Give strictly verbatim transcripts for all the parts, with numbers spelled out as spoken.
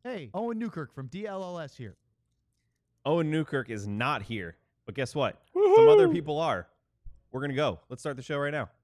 Hey, Owen Newkirk from D L L S here. Owen Newkirk is not here, but guess what? Woo-hoo! Some other people are. We're going to go. Let's start the show right now.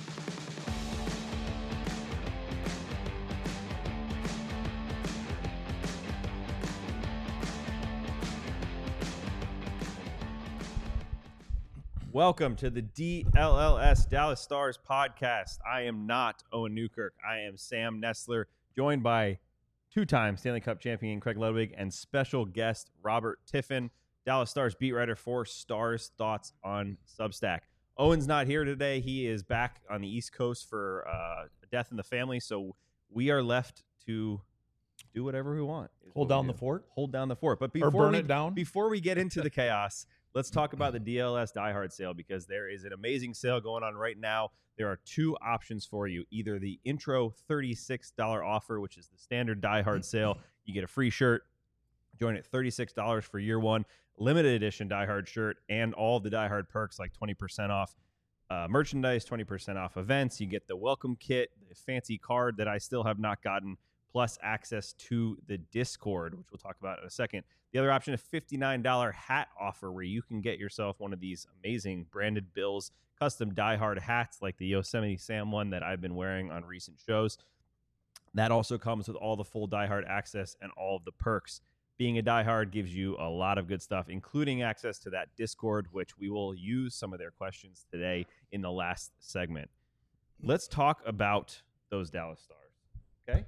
Welcome to the D L L S Dallas Stars podcast. I am not Owen Newkirk. I am Sam Nestler, joined by two-time Stanley Cup champion Craig Ludwig and special guest Robert Tiffin, Dallas Stars beat writer for Stars Thoughts on Substack. Owen's not here today. He is back on the East Coast for uh, a death in the family, so we are left to do whatever we want. Hold down the fort? Hold down the fort. But before Or burn we, it down? Before we get into the chaos, let's talk about the D L L S Die Hard sale, because there is an amazing sale going on right now. There are two options for you. Either the intro thirty-six dollars offer, which is the standard Die Hard sale. You get a free shirt. Join at thirty-six dollars for year one. Limited edition Die Hard shirt and all of the Die Hard perks like twenty percent off uh, merchandise, twenty percent off events. You get the welcome kit, the fancy card that I still have not gotten, plus access to the Discord, which we'll talk about in a second. The other option, a fifty-nine dollars hat offer where you can get yourself one of these amazing branded Bills custom Die Hard hats like the Yosemite Sam one that I've been wearing on recent shows. That also comes with all the full Die Hard access and all of the perks. Being a Die Hard gives you a lot of good stuff, including access to that Discord, which we will use some of their questions today in the last segment. Let's talk about those Dallas Stars, okay?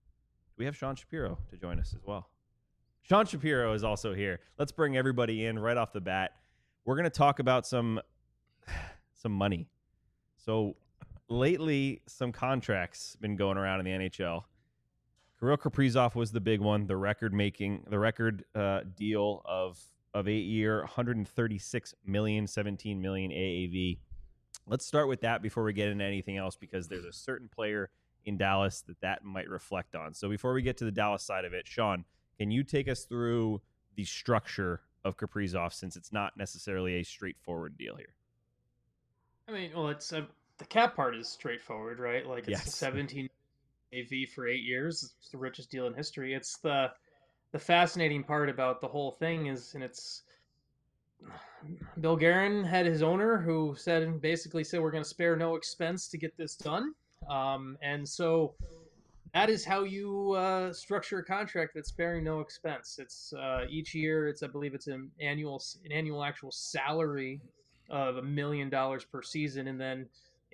We have Sean Shapiro to join us as well. Sean Shapiro is also here. Let's bring everybody in right off the bat. We're going to talk about some some money. So lately, some contracts been going around in the N H L. Kirill Kaprizov was the big one, the record making, the record uh, deal of of eight year, one hundred thirty-six million, seventeen million A A V. Let's start with that before we get into anything else, because there's a certain player in Dallas that that might reflect on. So before we get to the Dallas side of it, Sean, can you take us through the structure of Kaprizov, since it's not necessarily a straightforward deal here? I mean, well, it's uh, the cap part is straightforward, right? Like, it's Yes. seventeen A V for eight years. It's the richest deal in history. It's the the fascinating part about the whole thing is, and it's Bill Guerin had his owner who said, basically said, we're going to spare no expense to get this done. Um, and so that is how you uh, structure a contract that's sparing no expense. It's uh, each year. It's I believe it's an annual an annual actual salary of a million dollars per season, and then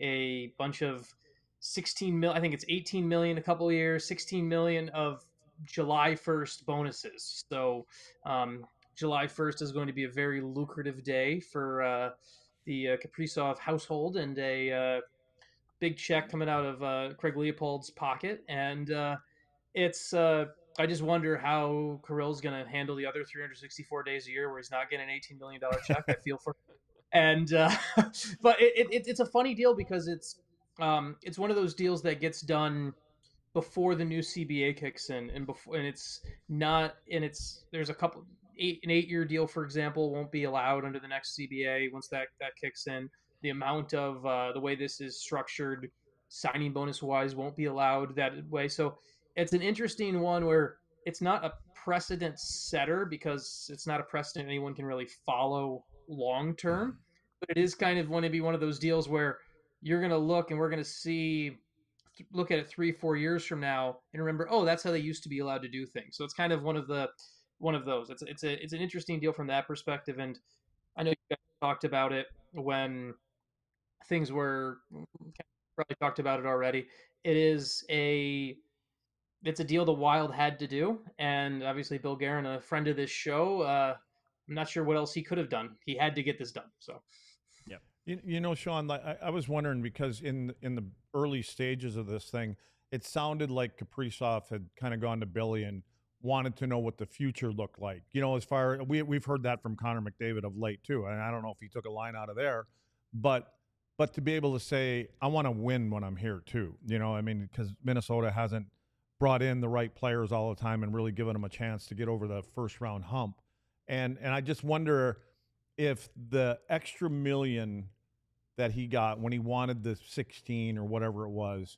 a bunch of sixteen mil. I think it's eighteen million a couple of years, sixteen million of July first bonuses. So um, July first is going to be a very lucrative day for uh, the uh, Kaprizov household, and a uh, big check coming out of uh, Craig Leopold's pocket. And uh, it's uh, I just wonder how Kirill's going to handle the other three hundred sixty-four days a year where he's not getting an eighteen million dollars check. I feel for him. And uh, but it, it, it's a funny deal because it's um, it's one of those deals that gets done before the new C B A kicks in, and before and it's not and it's there's a couple eight an eight year deal, for example, won't be allowed under the next C B A once that that kicks in. The amount of uh, the way this is structured, signing bonus wise, won't be allowed that way. So it's an interesting one where it's not a precedent setter because it's not a precedent anyone can really follow long term, but it is kind of going to be one of those deals where you're going to look and we're going to see look at it three four years from now and remember, oh, that's how they used to be allowed to do things. So it's kind of one of the one of those. It's it's a it's an interesting deal from that perspective. And I know you guys talked about it when things were probably talked about it already. It is a it's a deal the Wild had to do, and obviously Bill Guerin, a friend of this show, uh, I'm not sure what else he could have done. He had to get this done. So, yeah, you, you know, Sean, I, I was wondering because in in the early stages of this thing, it sounded like Kaprizov had kind of gone to Billy and wanted to know what the future looked like. You know, as far we we've heard that from Connor McDavid of late too, and I don't know if he took a line out of there, but but to be able to say I want to win when I'm here too. You know, I mean, because Minnesota hasn't brought in the right players all the time and really given them a chance to get over the first round hump. And and I just wonder if the extra million that he got when he wanted the sixteen or whatever it was,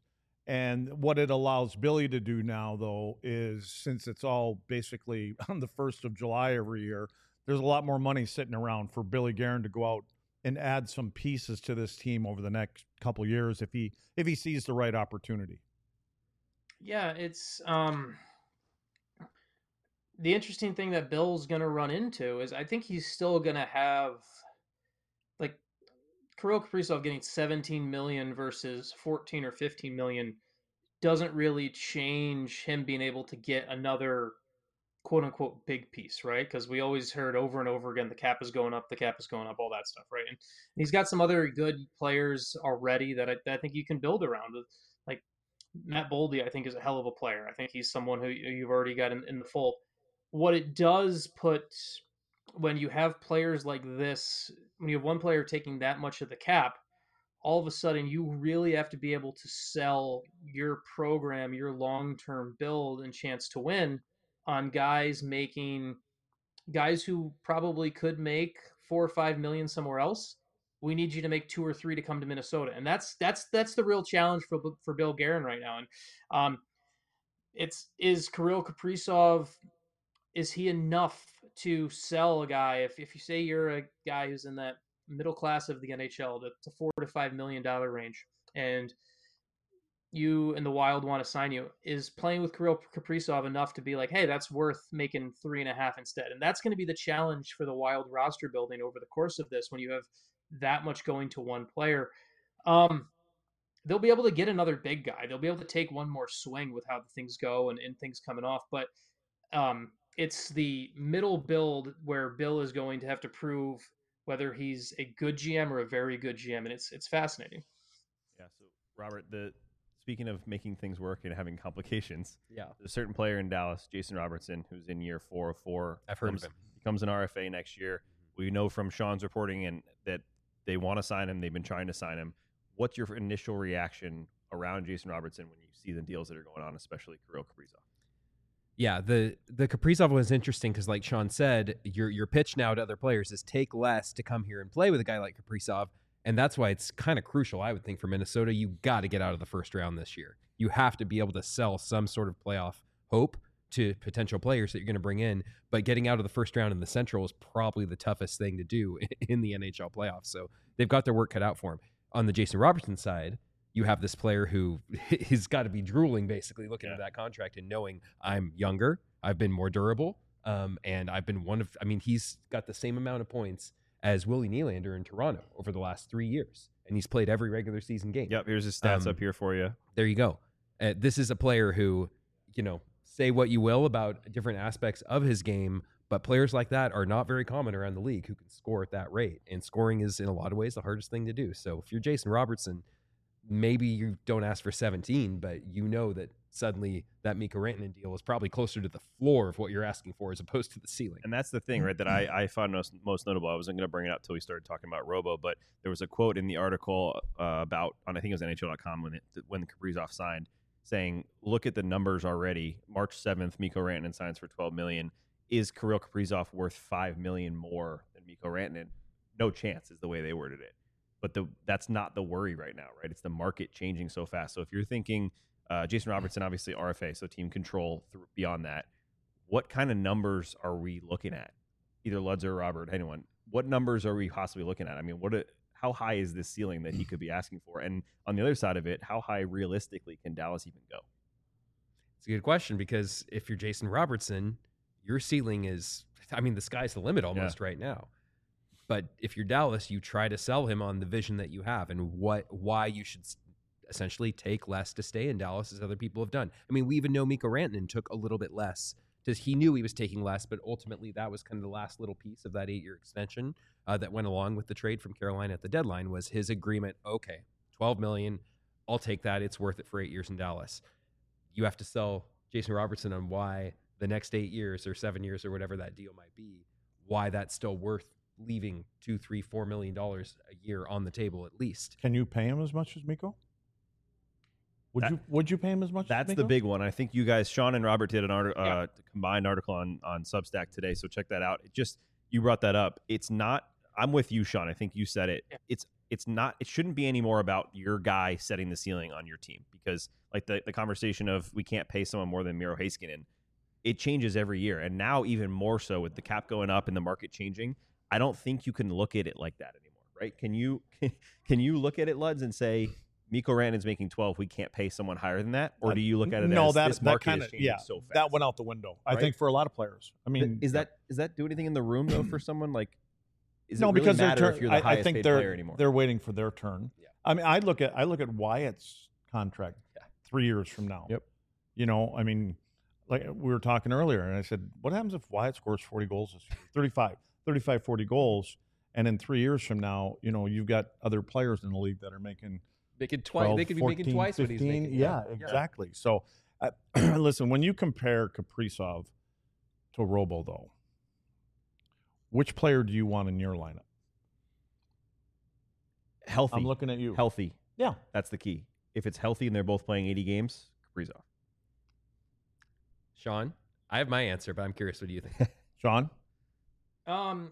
And what it allows Billy to do now, though, is since it's all basically on the first of July every year, there's a lot more money sitting around for Billy Guerin to go out and add some pieces to this team over the next couple of years if he if he sees the right opportunity. Yeah, it's um the interesting thing that Bill's going to run into is I think he's still going to have like Kirill Kaprizov getting seventeen million versus fourteen or fifteen million doesn't really change him being able to get another quote unquote big piece, right? Because we always heard over and over again the cap is going up, the cap is going up, all that stuff, right? And he's got some other good players already that I, that I think you can build around. Like Matt Boldy, I think, is a hell of a player. I think he's someone who you've already got in, in the fold. What it does put when you have players like this, when you have one player taking that much of the cap, all of a sudden you really have to be able to sell your program, your long-term build and chance to win on guys making guys who probably could make four or five million somewhere else. We need you to make two or three to come to Minnesota, and that's that's that's the real challenge for for Bill Guerin right now. And um, it's is Kirill Kaprizov. Is he enough to sell a guy? If if you say you're a guy who's in that middle class of the N H L, the, the four to five million dollar range, and you and the Wild want to sign you, is playing with Kirill Kaprizov enough to be like, hey, that's worth making three and a half instead? And that's going to be the challenge for the Wild roster building over the course of this when you have that much going to one player. Um, they'll be able to get another big guy. They'll be able to take one more swing with how the things go and, and things coming off. But um, it's the middle build where Bill is going to have to prove whether he's a good G M or a very good G M. And it's it's fascinating. Yeah. So, Robert, the speaking of making things work and having complications, Yeah. there's a certain player in Dallas, Jason Robertson, who's in year four of four. I've heard of becomes, him. Becomes an R F A next year. We know from Sean's reporting and that they want to sign him. They've been trying to sign him. What's your initial reaction around Jason Robertson when you see the deals that are going on, especially Kirill Kaprizov? Yeah, the the Kaprizov was interesting because, like Sean said, your your pitch now to other players is take less to come here and play with a guy like Kaprizov, and that's why it's kind of crucial, I would think, for Minnesota. You got to get out of the first round this year. You have to be able to sell some sort of playoff hope to potential players that you're going to bring in, but getting out of the first round in the Central is probably the toughest thing to do in the N H L playoffs. So they've got their work cut out for him. On the Jason Robertson side, you have this player who has got to be drooling, basically, looking Yeah. at that contract and knowing I'm younger, I've been more durable, um, and I've been one of, I mean, he's got the same amount of points as Willie Nylander in Toronto over the last three years, and he's played every regular season game. Yep, here's his stats Um, up here for you. There you go. Uh, this is a player who, you know, say what you will about different aspects of his game, but players like that are not very common around the league who can score at that rate. And scoring is, in a lot of ways, the hardest thing to do. So if you're Jason Robertson, maybe you don't ask for seventeen, but you know that suddenly that Mikko Rantanen deal is probably closer to the floor of what you're asking for as opposed to the ceiling. And that's the thing, right, that I, I found most, most notable. I wasn't going to bring it up until we started talking about Robo, but there was a quote in the article uh, about, on I think it was N H L dot com when, it, when Kaprizov signed, saying, look at the numbers already. March seventh, Mikko Rantanen signs for twelve million dollars. Is Kirill Kaprizov worth five million dollars more than Mikko Rantanen? No chance is the way they worded it. But the that's not the worry right now, right? It's the market changing so fast. So if you're thinking uh, Jason Robertson, obviously R F A, so team control th- beyond that, what kind of numbers are we looking at? Either Luds or Robert, anyone. What numbers are we possibly looking at? I mean, what? A, how high is this ceiling that he could be asking for? And on the other side of it, how high realistically can Dallas even go? It's a good question because if you're Jason Robertson, your ceiling is, I mean, the sky's the limit almost right now. But if you're Dallas, you try to sell him on the vision that you have and what why you should essentially take less to stay in Dallas, as other people have done. I mean, we even know Mikko Rantanen took a little bit less because he knew he was taking less, but ultimately that was kind of the last little piece of that eight-year extension uh, that went along with the trade from Carolina at the deadline was his agreement, okay, twelve million dollars, I'll take that. It's worth it for eight years in Dallas. You have to sell Jason Robertson on why the next eight years or seven years or whatever that deal might be, why that's still worth leaving two, three, four million dollars a year on the table at least. Can you pay him as much as Mikko? Would That- you Would you pay him as much? That's as the Mikko? big one. I think you guys, Sean and Robert, did an art, uh, Yeah. combined article on on Substack today, so check that out. It just you brought that up. It's not. I'm with you, Sean. I think you said it. Yeah. It's it's not. It shouldn't be any more about your guy setting the ceiling on your team, because like the the conversation of we can't pay someone more than Miro Heiskanen, it changes every year, and now even more so with the cap going up and the market changing. I don't think you can look at it like that anymore, right? Can you can you look at it, Luds, and say Mikko Rantanen's making twelve, we can't pay someone higher than that? Or do you look at it no, as that, this that market kind is of, changing yeah, so fast? that went out the window, I right? think, for a lot of players. I mean, is that is that do anything in the room, though, for someone? Like, is no, it really because matter turn, if you're the I, highest I think paid they're, player anymore? They're waiting for their turn. Yeah. I mean, I look at I look at Wyatt's contract Yeah. three years from now. Yep. You know, I mean, like we were talking earlier, and I said, what happens if Wyatt scores forty goals this year? thirty-five, thirty-five, forty goals. And in three years from now, you know, you've got other players in the league that are making Making twice. twelve, They could be fourteen, making twice fifteen. what he's making. Yeah, exactly. So, uh, listen, when you compare Kaprizov to Robo, though, which player do you want in your lineup? Healthy. I'm looking at you. Healthy. Yeah. That's the key. If it's healthy and they're both playing eighty games, Kaprizov. Sean, I have my answer, but I'm curious. What do you think? Sean? Um,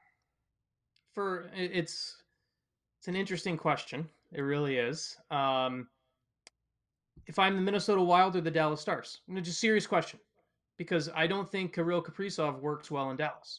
for it- it's it's an interesting question. It really is. Um, if I'm the Minnesota Wild or the Dallas Stars, no, just serious question, because I don't think Kirill Kaprizov works well in Dallas.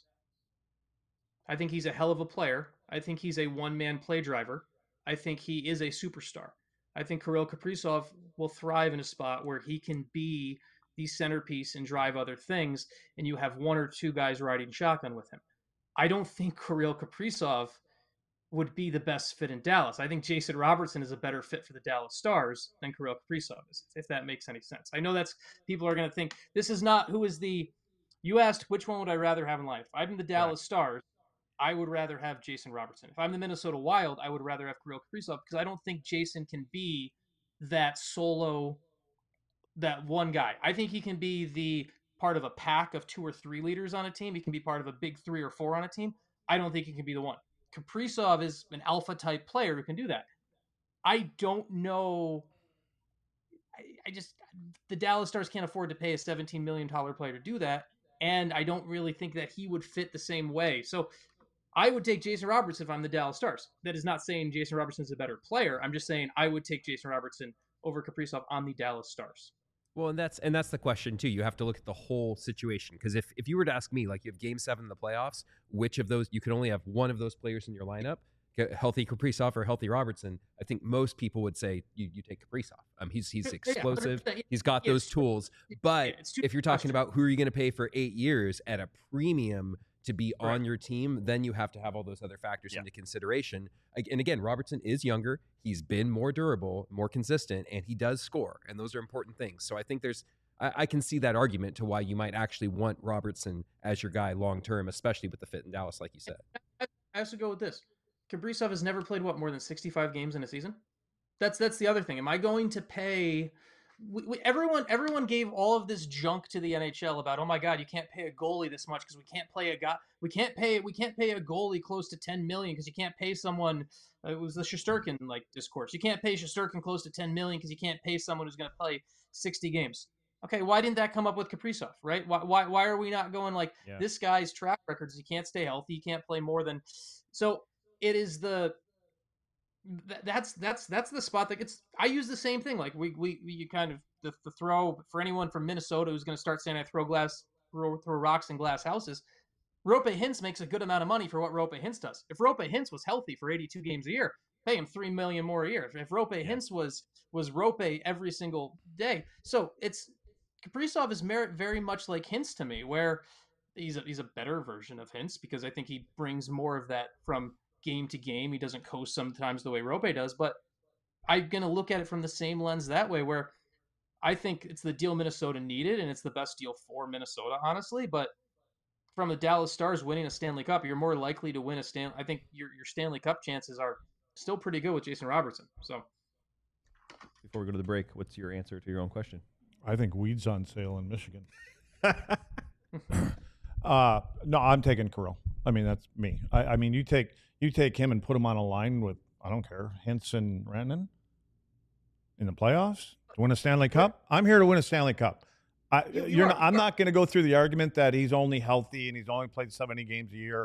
I think he's a hell of a player. I think he's a one-man play driver. I think he is a superstar. I think Kirill Kaprizov will thrive in a spot where he can be the centerpiece and drive other things, and you have one or two guys riding shotgun with him. I don't think Kirill Kaprizov would be the best fit in Dallas. I think Jason Robertson is a better fit for the Dallas Stars than Kirill Kaprizov is, if that makes any sense. I know that's people are going to think this is not who is the. You asked which one would I rather have in life. If I'm the Dallas right. Stars, I would rather have Jason Robertson. If I'm the Minnesota Wild, I would rather have Kirill Kaprizov because I don't think Jason can be that solo, that one guy. I think he can be the part of a pack of two or three leaders on a team. He can be part of a big three or four on a team. I don't think he can be the one. Kaprizov is an alpha type player who can do that. I don't know. I, I just, the Dallas Stars can't afford to pay a seventeen million dollars player to do that. And I don't really think that he would fit the same way. So I would take Jason Robertson if I'm the Dallas Stars. That is not saying Jason Robertson is a better player. I'm just saying I would take Jason Robertson over Kaprizov on the Dallas Stars. Well, and that's and that's the question too. You have to look at the whole situation, because if, if you were to ask me, like you have Game Seven in the playoffs, which of those you could only have one of those players in your lineup, healthy Kaprizov or healthy Robertson, I think most people would say you, you take Kaprizov. Um, he's he's explosive, yeah, he's got those tools. But yeah, if you're talking about who are you going to pay for eight years at a premium to be right. on your team, then you have to have all those other factors yeah. into consideration. And again, Robertson is younger. He's been more durable, more consistent, and he does score. And those are important things. So I think there's, I, I can see that argument to why you might actually want Robertson as your guy long-term, especially with the fit in Dallas, like you said. I also go with this. Kaprizov has never played, what, more than sixty-five games in a season? That's that's the other thing. Am I going to pay... We, we, everyone everyone gave all of this junk to the N H L about, oh my God, you can't pay a goalie this much because we can't play a guy we can't pay we can't pay a goalie close to ten million because you can't pay someone. Uh, it was the Shesterkin like discourse. You can't pay Shesterkin close to ten million because you can't pay someone who's going to play sixty games. Okay, why didn't that come up with Kaprizov? Right? Why why why are we not going like yeah. this guy's track record is he can't stay healthy, he can't play more than so it is the. That's that's that's the spot that gets. I use the same thing. Like we we, we you kind of the, the throw for anyone from Minnesota who's going to start saying I throw glass throw, throw rocks in glass houses. Roope Hintz makes a good amount of money for what Roope Hintz does. If Roope Hintz was healthy for eighty-two games a year, pay him three million more a year. If, if Roope yeah. Hintz was was Roope every single day, so it's Kaprizov is mer- very much like Hintz to me, where he's a, he's a better version of Hintz because I think he brings more of that from game to game. He doesn't coast sometimes the way Roope does, but I'm going to look at it from the same lens that way, where I think it's the deal Minnesota needed, and it's the best deal for Minnesota, honestly. But from the Dallas Stars winning a Stanley Cup, you're more likely to win a Stanley. I think your your Stanley Cup chances are still pretty good with Jason Robertson. So, before we go to the break, what's your answer to your own question? I think weed's on sale in Michigan. uh, no, I'm taking Kirill. I mean, that's me. I, I mean, you take you take him and put him on a line with, I don't care, Hintz and Rantanen in the playoffs to win a Stanley Cup. I'm here to win a Stanley Cup. I, you, you you're are, not, I'm not going to go through the argument that he's only healthy and he's only played seventy games a year.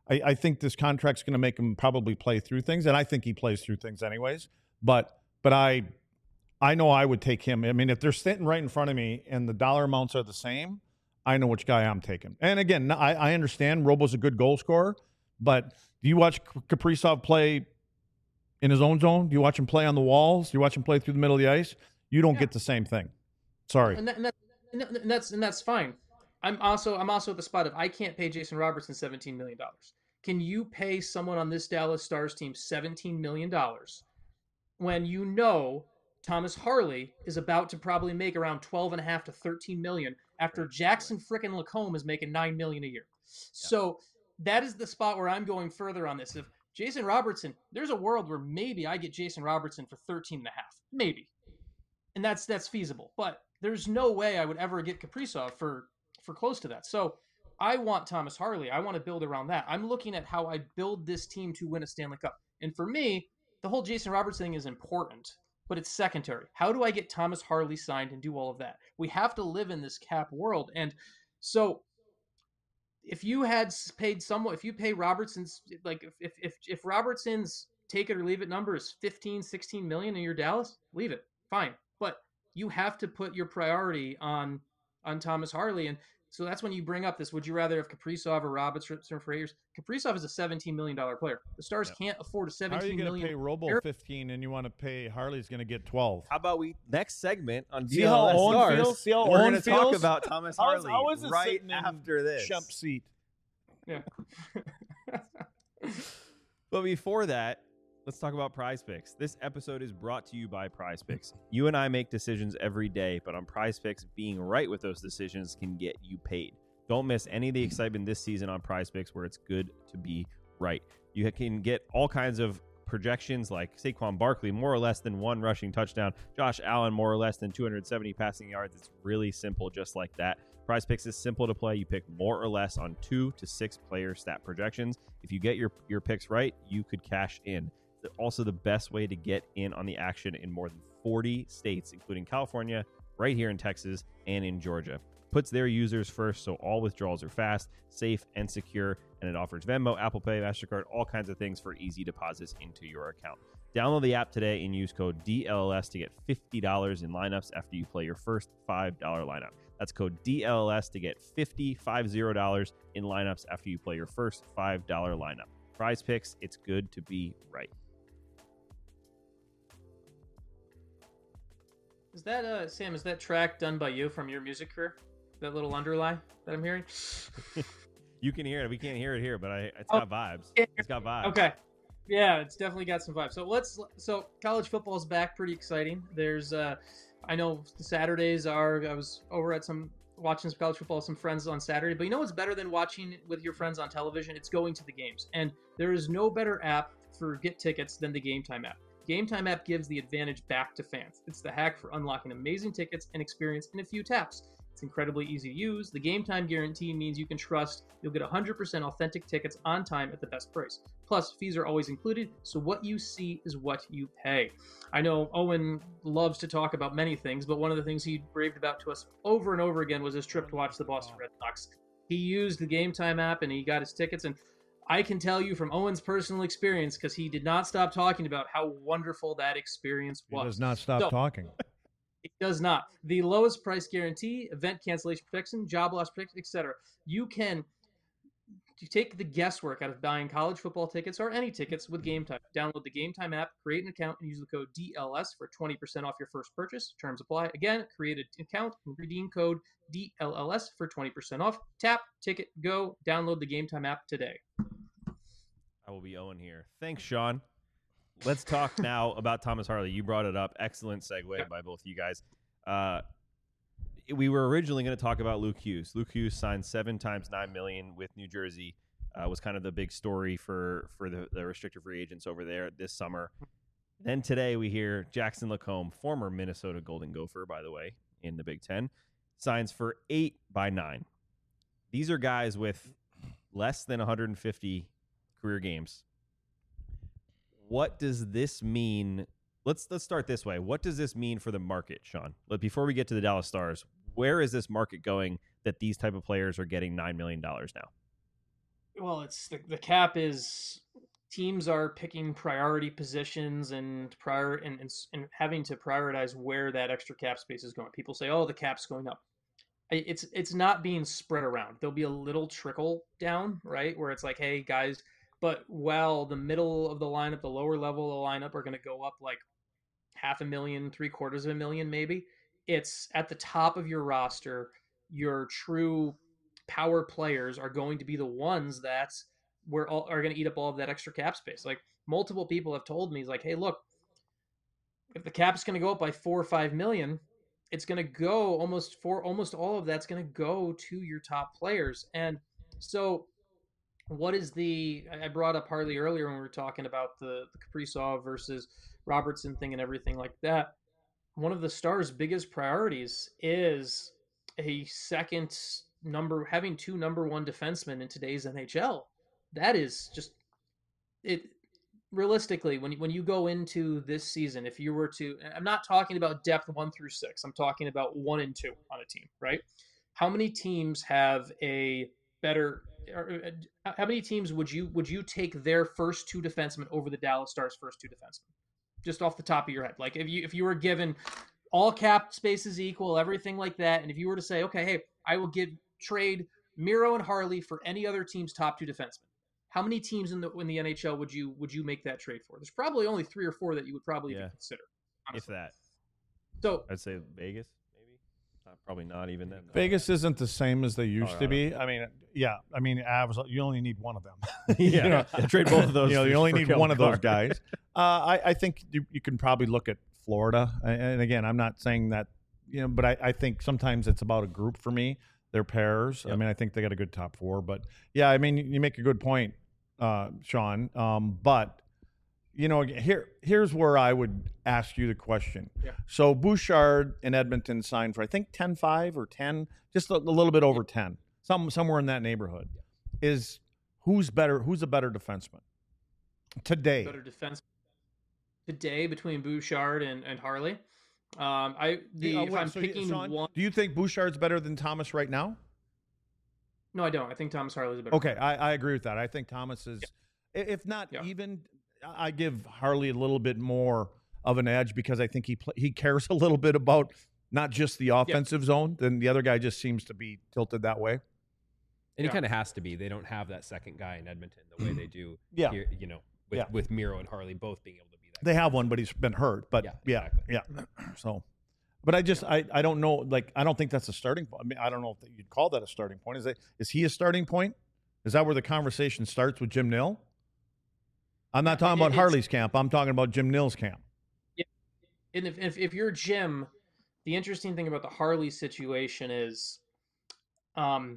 I, I think this contract's going to make him probably play through things, and I think he plays through things anyways. But but I I know I would take him. I mean, if they're sitting right in front of me and the dollar amounts are the same, I know which guy I'm taking. And again, I, I understand Robo's a good goal scorer, but do you watch Kaprizov play in his own zone? Do you watch him play on the walls? Do you watch him play through the middle of the ice? You don't Yeah. get the same thing. Sorry. And, that, and, that, and that's and that's fine. I'm also I'm also at the spot of I can't pay Jason Robertson seventeen million dollars. Can you pay someone on this Dallas Stars team seventeen million dollars when you know Thomas Harley is about to probably make around twelve and a half to thirteen million after Jackson frickin' Lacombe is making nine million a year? So that is the spot where I'm going further on this. If Jason Robertson, there's a world where maybe I get Jason Robertson for thirteen and a half, maybe, and that's that's feasible. But there's no way I would ever get Kaprizov for for close to that. So I want Thomas Harley. I want to build around that. I'm looking at how I build this team to win a Stanley Cup. And for me, the whole Jason Robertson thing is important, but it's secondary. How do I get Thomas Harley signed and do all of that? We have to live in this cap world. And so if you had paid someone, if you pay Robertson's, like if if if Robertson's take it or leave it number is fifteen, sixteen million in your Dallas, leave it. Fine. But you have to put your priority on on Thomas Harley. And so that's when you bring up this, would you rather have Kaprizov or Robertson for eight years? Kaprizov is a seventeen million dollars player. The Stars Yeah. can't afford a How are seventeen you going million to pay Robo player. fifteen and you want to pay Harley's going to get twelve? How about we next segment on See how D L S Owen Stars? feels? See how We're Owen going to talk feels? about Thomas How is- Harley how is it right sitting in after this. Chump seat. Yeah. But before that, let's talk about Prize Picks. This episode is brought to you by Prize Picks. You and I make decisions every day, but on Prize Picks, being right with those decisions can get you paid. Don't miss any of the excitement this season on Prize Picks, where it's good to be right. You can get all kinds of projections like Saquon Barkley, more or less than one rushing touchdown. Josh Allen, more or less than two hundred seventy passing yards. It's really simple, just like that. Prize Picks is simple to play. You pick more or less on two to six player stat projections. If you get your, your picks right, you could cash in. It's also the best way to get in on the action in more than forty states, including California, right here in Texas, and in Georgia. Puts their users first, so all withdrawals are fast, safe, and secure, and it offers Venmo, Apple Pay, MasterCard, all kinds of things for easy deposits into your account. Download the app today and use code D L L S to get fifty dollars in lineups after you play your first five dollar lineup. That's code D L L S to get fifty dollars in lineups after you play your first five dollar lineup. Prize Picks, it's good to be right. Is that uh Sam, is that track done by you from your music career? That little underlie that I'm hearing? You can hear it. We can't hear it here, but I, it's Oh, got vibes. yeah. It's got vibes. Okay. Yeah, it's definitely got some vibes. So let's so college football is back, pretty exciting. There's uh I know the Saturdays are I was over at some watching some college football with some friends on Saturday, but you know what's better than watching with your friends on television? It's going to the games. And there is no better app for get tickets than the Game Time app. Game Time app gives the advantage back to fans. It's the hack for unlocking amazing tickets and experience in a few taps. It's incredibly easy to use. The Game Time guarantee means you can trust you'll get one hundred percent authentic tickets on time at the best price. Plus, fees are always included, so what you see is what you pay. I know Owen loves to talk about many things, but one of the things he raved about to us over and over again was his trip to watch the Boston Red Sox. He used the Game Time app and he got his tickets, and I can tell you from Owen's personal experience, because he did not stop talking about how wonderful that experience He was. does not stop So- talking. It does not. The lowest price guarantee, event cancellation protection, job loss protection, et cetera. You can you take the guesswork out of buying college football tickets or any tickets with Game Time. Download the Game Time app, create an account, and use the code D L S for twenty percent off your first purchase. Terms apply. Again, create an account and redeem code D L L S for twenty percent off. Tap, ticket, go. Download the Game Time app today. I will be Owen here. Thanks, Sean. Let's talk now about Thomas Harley. You brought it up. Excellent segue Yeah. by both of you guys. Uh, we were originally going to talk about Luke Hughes. Luke Hughes signed seven times nine million with New Jersey. Uh, was kind of the big story for for the, the restricted free agents over there this summer. Then today we hear Jackson Lacombe, former Minnesota Golden Gopher, by the way, in the Big Ten, signs for eight by nine. These are guys with less than one hundred fifty career games. What does this mean? Let's let's start this way. What does this mean for the market, Sean? But before we get to the Dallas Stars, where is this market going that these type of players are getting nine million dollars now? well, it's the, the cap is teams are picking priority positions and prior and, and and having to prioritize where that extra cap space is going. People say, "Oh, the cap's going up." It's it's not being spread around. There'll be a little trickle down, right, where it's like, "Hey, guys," but while the middle of the lineup, the lower level of the lineup are going to go up like half a million, three quarters of a million, maybe. It's at the top of your roster. Your true power players are going to be the ones that we're all, are going to eat up all of that extra cap space. Like multiple people have told me, like, hey, look, if the cap's going to go up by four or five million, it's going to go almost for almost all of that's going to go to your top players. And so, what is the? I brought up Harley earlier when we were talking about the the Kaprizov versus Robertson thing and everything like that. One of the Stars' biggest priorities is a second number, having two number one defensemen in today's N H L. That is just it. Realistically, when you, when you go into this season, if you were to, I'm not talking about depth one through six. I'm talking about one and two on a team, right? How many teams have a better? Or, how many teams would you would you take their first two defensemen over the Dallas Stars' first two defensemen? Just off the top of your head, like if you if you were given all cap spaces equal, everything like that, and if you were to say, okay, hey, I will give trade Miro and Harley for any other team's top two defensemen. How many teams in the in the N H L would you would you make that trade for? There's probably only three or four that you would probably Yeah. even consider. If that. So I'd say Vegas, maybe. Not, probably not even then. Vegas isn't the same as they used to Colorado. be. I mean, yeah. I mean, Avs, you only need one of them. yeah, You know, yeah, trade both of those. You know, you for- only for need Kellen one of those Carr. guys. Uh, I, I think you, you can probably look at Florida. And and again, I'm not saying that, you know, but I, I think sometimes it's about a group for me. They're pairs. I Yep. mean, I think they got a good top four. But yeah, I mean, you make a good point, uh, Sean. Um, but you know, here here's where I would ask you the question. Yeah. So Bouchard in Edmonton signed for I think ten five or ten, just a, a little bit over ten, some somewhere in that neighborhood. Is who's better? Who's a better defenseman today? better defense today between Bouchard and, and Harley. Um, I the Uh, if wait, I'm so he- picking Sean, one. do you think Bouchard's better than Thomas right now? No, I don't. I think Thomas Harley's a better. Okay, I, I agree with that. I think Thomas is, i if not Yeah. even, I give Harley a little bit more of an edge because I think he pl- he cares a little bit about not just the offensive zone. Then the other guy just seems to be tilted that way. And Yeah. it kind of has to be. They don't have that second guy in Edmonton the way they do Yeah. here, you know, with, Yeah. with Miro and Harley both being able to be that. They have one, but he's been hurt. But Yeah, yeah, exactly. yeah. So, but I just I, I don't know. Like I don't think that's a starting point. I mean, I don't know if you'd call that a starting point. Is it? Is he a starting point? Is that where the conversation starts with Jim Nill? I'm not talking It- about it's- Harley's camp. I'm talking about Jim Nill's camp. And if, if if you're Jim, the interesting thing about the Harley situation is, um,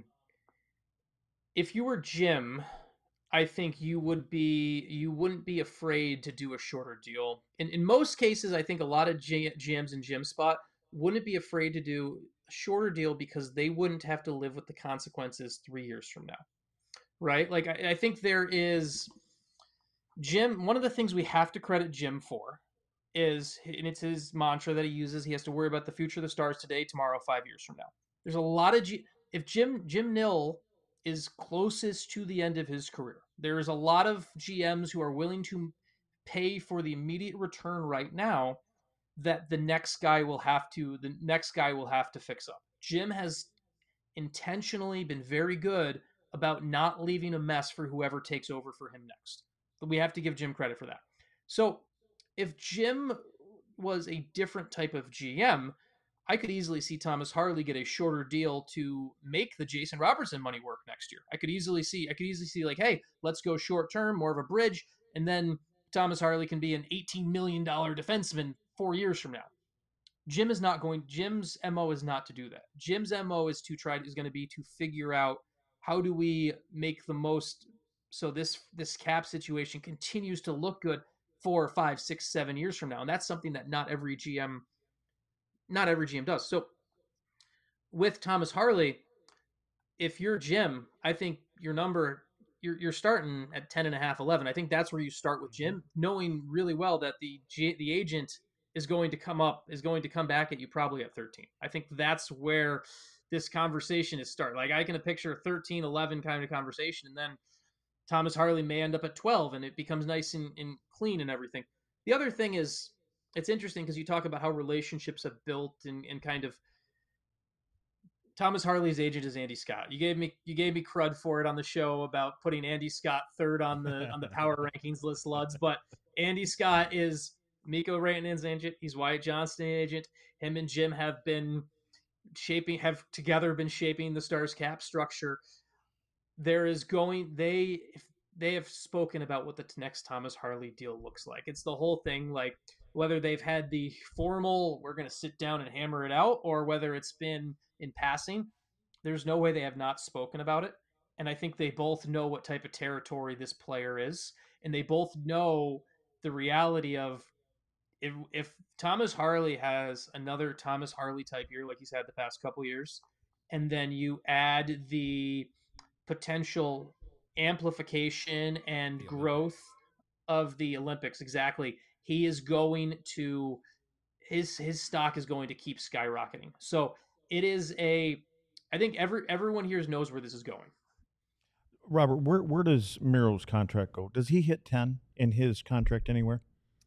if you were Jim, I think you would be you wouldn't be afraid to do a shorter deal. In in most cases, I think a lot of G- GMs in Jim's spot wouldn't be afraid to do a shorter deal because they wouldn't have to live with the consequences three years from now, right? Like I, I think there is Jim. One of the things we have to credit Jim for is, and it's his mantra that he uses, he has to worry about the future of the Stars today, tomorrow, five years from now. There's a lot of G- if Jim Jim Nill is closest to the end of his career, there's a lot of G Ms who are willing to pay for the immediate return right now that the next guy will have to the next guy will have to fix up. Jim has intentionally been very good about not leaving a mess for whoever takes over for him next. But we have to give Jim credit for that. So if Jim was a different type of G M, I could easily see Thomas Harley get a shorter deal to make the Jason Robertson money work next year. I could easily see, I could easily see like, hey, let's go short term, more of a bridge, and then Thomas Harley can be an eighteen million dollars defenseman four years from now. Jim is not going, Jim's M O is not to do that. Jim's M O is to try, is going to be to figure out how do we make the most, so this, this cap situation continues to look good four, five, six, seven years from now. And that's something that not every G M, not every G M does. So with Thomas Harley, if you're Jim, I think your number, you're, you're starting at ten and a half, eleven. I think that's where you start with Jim, knowing really well that the G, the agent is going to come up, is going to come back at you probably at thirteen. I think that's where this conversation is start. Like I can picture a thirteen, eleven kind of conversation. And then Thomas Harley may end up at twelve, and it becomes nice and, and clean and everything. The other thing is, it's interesting because you talk about how relationships have built and, and kind of. Thomas Harley's agent is Andy Scott. You gave me you gave me crud for it on the show about putting Andy Scott third on the on the power rankings list, Luds. But Andy Scott is Mikko Rantanen's agent. He's Wyatt Johnston's agent. Him and Jim have been shaping have together been shaping the Stars cap structure. There is going they they have spoken about what the next Thomas Harley deal looks like. It's the whole thing, like whether they've had the formal we're going to sit down and hammer it out, or whether it's been in passing. There's no way they have not spoken about it. And I think they both know what type of territory this player is. And they both know the reality of if, if Thomas Harley has another Thomas Harley type year, like he's had the past couple years, and then you add the potential amplification and growth of the Olympics, exactly, he is going to, his, his stock is going to keep skyrocketing. So it is a, I think every everyone here knows where this is going. Robert, where where does Miro's contract go? Does he hit ten in his contract anywhere?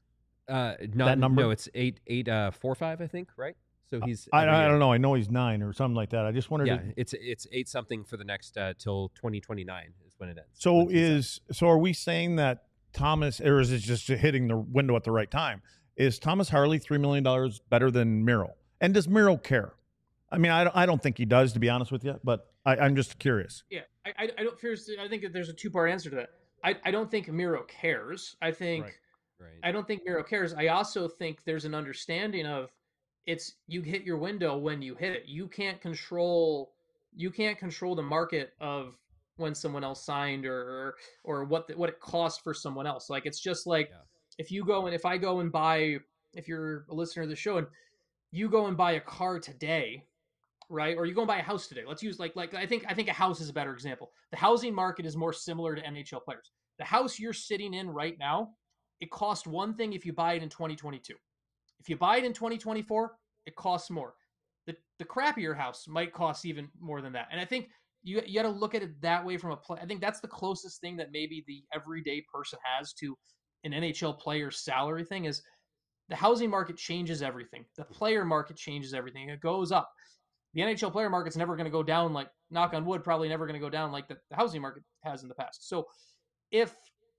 Uh, not, That number? No, it's eight, eight, uh, four, five, I think, right? So he's. I, every I year. don't know. I know he's nine or something like that. I just wondered. Yeah, if- it's it's eight something for the next uh, till twenty twenty-nine is when it ends. so When he's is so are we saying that Thomas, or is it just hitting the window at the right time? Is Thomas Harley three million dollars better than Miro? And does Miro care? I mean, I don't, I don't think he does, to be honest with you, but I, I'm just curious. Yeah, I, I, I don't fear. I think that there's a two part answer to that. I, I don't think Miro cares. I think Right. Right. I don't think Miro cares. I also think there's an understanding of it's you hit your window when you hit it. You can't control you can't control the market of when someone else signed or or what the, what it costs for someone else. Like it's just like Yeah. if you go and if I go and buy if you're a listener of the show and you go and buy a car today, right? Or you go and buy a house today. Let's use like like I think I think a house is a better example. The housing market is more similar to N H L players. The house you're sitting in right now, it costs one thing if you buy it in twenty twenty-two. If you buy it in twenty twenty-four, it costs more. The the crappier house might cost even more than that. And I think you you got to look at it that way from a play. I think that's the closest thing that maybe the everyday person has to an N H L player's salary thing is the housing market changes everything. The player market changes everything. It goes up. The N H L player market's never going to go down like, knock on wood, probably never going to go down like the, the housing market has in the past. So if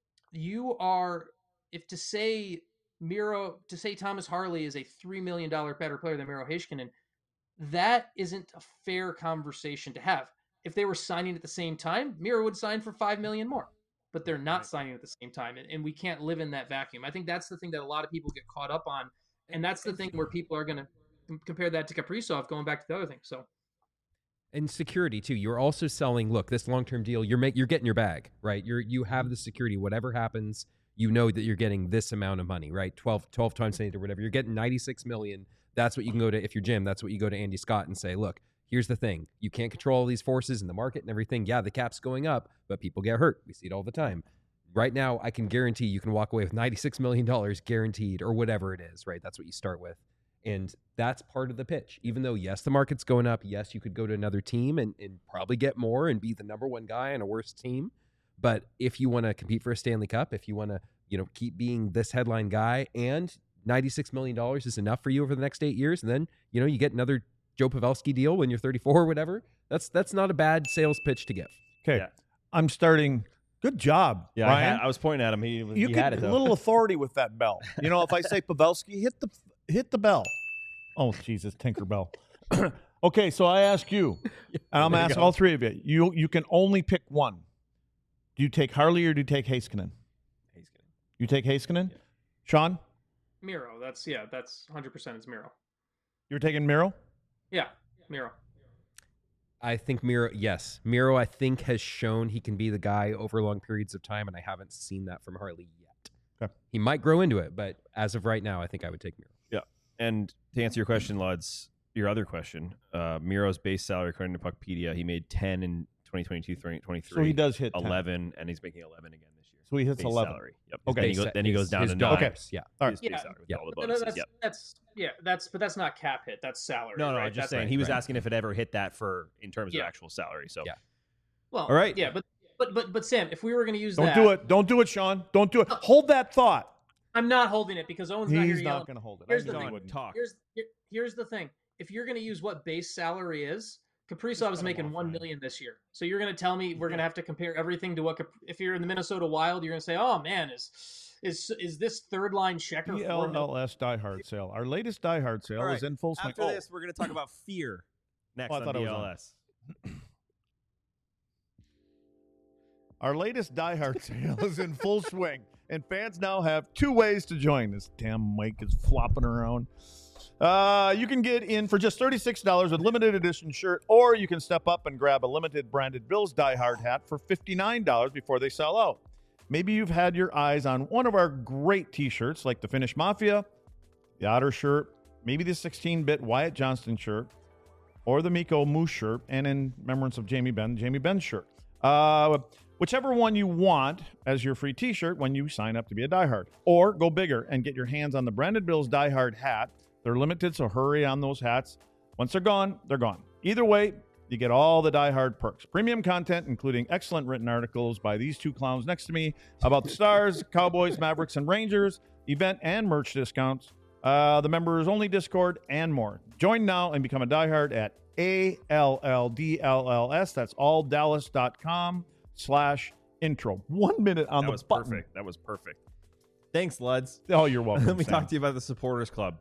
you are, if to say Miro, to say Thomas Harley is a three million dollars better player than Miro Heiskanen, that isn't a fair conversation to have. If they were signing at the same time, Miro would sign for five million dollars more. But they're not signing at the same time, and, and we can't live in that vacuum. I think that's the thing that a lot of people get caught up on, and that's the thing where people are going to compare that to Kaprizov, going back to the other thing. So, and security too. You're also selling. Look, this long-term deal. You're make, You're getting your bag, right? You're you have the security. Whatever happens, you know that you're getting this amount of money, right? twelve, twelve times eight or whatever. You're getting ninety-six million. That's what you can go to if you're Jim. That's what you go to Andy Scott and say, look. Here's the thing. You can't control all these forces in the market and everything. Yeah, the cap's going up, but people get hurt. We see it all the time. Right now, I can guarantee you can walk away with ninety-six million dollars guaranteed or whatever it is, right? That's what you start with. And that's part of the pitch. Even though, yes, the market's going up. Yes, you could go to another team and, and probably get more and be the number one guy on a worse team. But if you want to compete for a Stanley Cup, if you want to, you know, keep being this headline guy and ninety-six million dollars is enough for you over the next eight years, and then, you know, you get another Joe Pavelski deal when you're thirty-four or whatever. That's that's not a bad sales pitch to give. Okay, Yeah. I'm starting. Good job, Yeah, I, Ryan. had, I was pointing at him. He, you he get had it a though. little authority with that bell. You know, if I say Pavelski, hit the hit the bell. Oh, Jesus, Tinkerbell. Okay, so I ask you, and I'm There you asking go. all three of you. You you can only pick one. Do you take Harley or do you take Heiskanen? He's kidding. You take Heiskanen? Yeah. Sean, Miro, that's, yeah, that's one hundred percent it's Miro. you're taking Miro? Yeah, Miro. I think Miro, yes. Miro, I think, has shown he can be the guy over long periods of time, and I haven't seen that from Harley yet. Okay. He might grow into it, but as of right now, I think I would take Miro. And to answer your question, Luds, your other question, uh, Miro's base salary, according to Puckpedia, he made ten in twenty twenty-two, twenty twenty-three. So he does hit ten. eleven, and he's making eleven again this year. So he hits Base eleven. Salary. Yep. Okay. Then he His goes, sa- then he his- goes down his to dollars, nine. Yeah. All right. His base Yeah. salary with Yeah, all the but bonuses. that's, Yep. that's yeah, that's but that's not cap hit. That's salary. No, no, right? I'm just That's saying right, he was right. asking if it ever hit that for in terms Yeah. of actual salary. So Yeah. Well, All right. yeah, but But but but Sam, if we were going to use Don't that, do it. Don't do it, Sean. Don't do it. Hold that thought. I'm not holding it because Owen's not here He's yelling. not going to hold it. Here's I the knew he thing. wouldn't. Talk. Here's here, here's the thing. If you're going to use what base salary is, Kaprizov is cut him making off, one Ryan. million this year. So you're going to tell me we're going to have to compare everything to what? Cap- If you're in the Minnesota Wild, you're going to say, "Oh man, is is is this third line checker?" D four L L S Die Hard sale. Our latest Die Hard sale All right. is in full swing. After Oh, this, we're going to talk about fear next Oh, I on thought it D was L on. S. our latest Die Hard sale is in full swing, and fans now have two ways to join. This damn mic is flopping around. Uh, you can get in for just thirty-six dollars with limited edition shirt, or you can step up and grab a limited branded Bills Die Hard hat for fifty-nine dollars before they sell out. Maybe you've had your eyes on one of our great t-shirts like the Finnish Mafia, the Otter shirt, maybe the sixteen-bit Wyatt Johnston shirt, or the Miko Moose shirt, and in remembrance of Jamie Benn, Jamie Benn shirt. Uh, whichever one you want as your free t-shirt when you sign up to be a Die Hard. Or go bigger and get your hands on the Branded Bills Die Hard hat. They're limited, so hurry on those hats. Once they're gone, they're gone. Either way, you get all the Die Hard perks. Premium content, including excellent written articles by these two clowns next to me about the Stars, Cowboys, Mavericks, and Rangers, event and merch discounts, uh, the members-only Discord, and more. Join now and become a Die Hard at A L L D L L S. That's alldallas.com slash intro. One minute on That the was button. perfect. That was perfect. Thanks, Luds. Oh, you're welcome. Let me Sam. talk to you about the Supporters Club.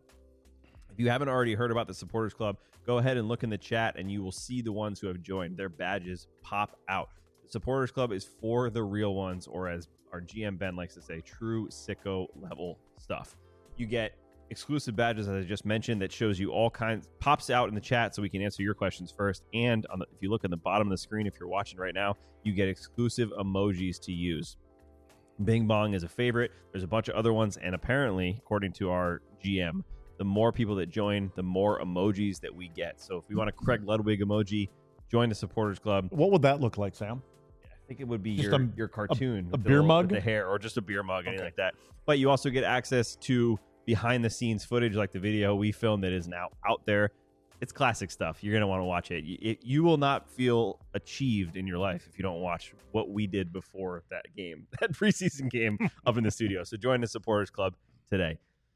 If you haven't already heard about the Supporters Club, go ahead and look in the chat and you will see the ones who have joined. Their badges pop out. The Supporters Club is for the real ones, or as our G M Ben likes to say, true sicko level stuff. You get exclusive badges, as I just mentioned, that shows you all kinds, pops out in the chat so we can answer your questions first. And on the, if you look at the bottom of the screen, if you're watching right now, you get exclusive emojis to use. Bing Bong is a favorite. There's a bunch of other ones. And apparently, according to our G M, the more people that join, the more emojis that we get. So if we want a Craig Ludwig emoji, join the Supporters Club. What would that look like, Sam? I think it would be Just your, a- your cartoon. a with the beer little- mug? with the hair, or just a beer mug, anything Okay. like that. But you also get access to behind the scenes footage, like the video we filmed that is now out there. It's classic stuff. You're going to want to watch it. You, it. you will not feel achieved in your life if you don't watch what we did before that game, that preseason game up in the studio. So join the Supporters Club today.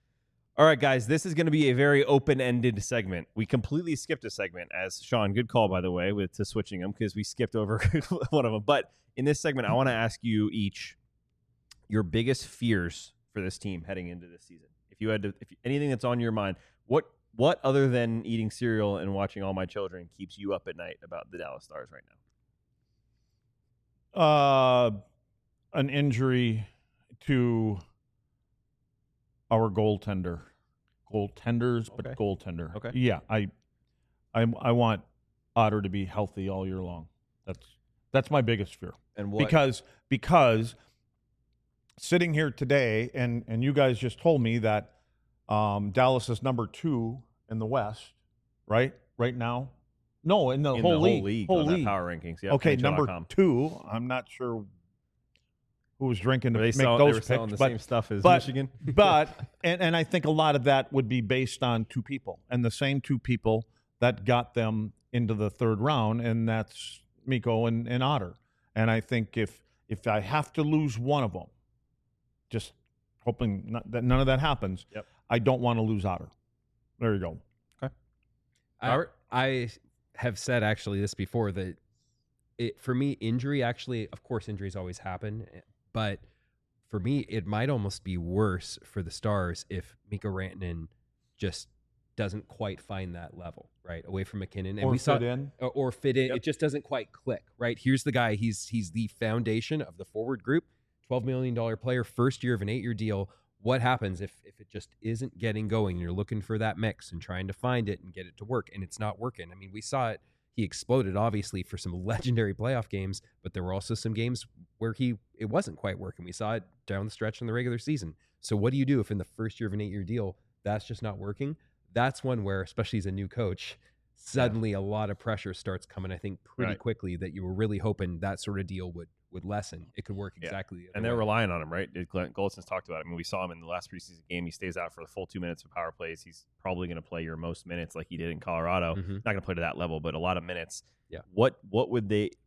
All right, guys, this is going to be a very open-ended segment. We completely skipped a segment, as Sean, good call, by the way, with to switching them, because we skipped over one of them. But in this segment, I want to ask you each your biggest fears for this team heading into this season. If you had to, if anything that's on your mind, what what other than eating cereal and watching All My Children keeps you up at night about the Dallas Stars right now? Uh, an injury to our goaltender, goaltenders, but Okay. goaltender. Okay. Yeah, I, I, I want Otter to be healthy all year long. That's that's my biggest fear. And what? Because because sitting here today, and and you guys just told me that um, Dallas is number two in the West, right? Right now, no, in the in whole the league, whole league, whole on league. that power rankings. Yep, Okay, N H L dot number com. two. I'm not sure who was drinking to Were they make sell, they those were selling picks, the but same stuff as but- Michigan. but and, and I think a lot of that would be based on two people, and the same two people that got them into the third round, and that's Miko and, and Otter. And I think if if I have to lose one of them, just hoping not, that none of that happens, Yep. I don't want to lose Otter. There you go. I, Robert? I have said actually this before that it for me injury actually, of course, injuries always happen, but for me it might almost be worse for the Stars if Mikko Rantanen just doesn't quite find that level right away from McKinnon, and or we saw fit in. or, or fit in. Yep. It just doesn't quite click, right? Here's the guy. He's he's the foundation of the forward group. twelve million dollars player, first year of an eight-year deal. What happens if if it just isn't getting going? You're looking for that mix and trying to find it and get it to work, and it's not working. I mean, we saw it. He exploded, obviously, for some legendary playoff games, but there were also some games where he it wasn't quite working. We saw it down the stretch in the regular season. So what do you do if in the first year of an eight-year deal, that's just not working? That's one where, especially as a new coach, suddenly a lot of pressure starts coming, I think, pretty Right. quickly that you were really hoping that sort of deal would would lessen. It could work Yeah. exactly the other And they're way. relying on him, right? Glenn Goldson's talked about it. I mean, we saw him in the last preseason game. He stays out for the full two minutes of power plays. He's probably going to play your most minutes like he did in Colorado. Mhm. Not going to play to that level, but a lot of minutes. Yeah. What What would they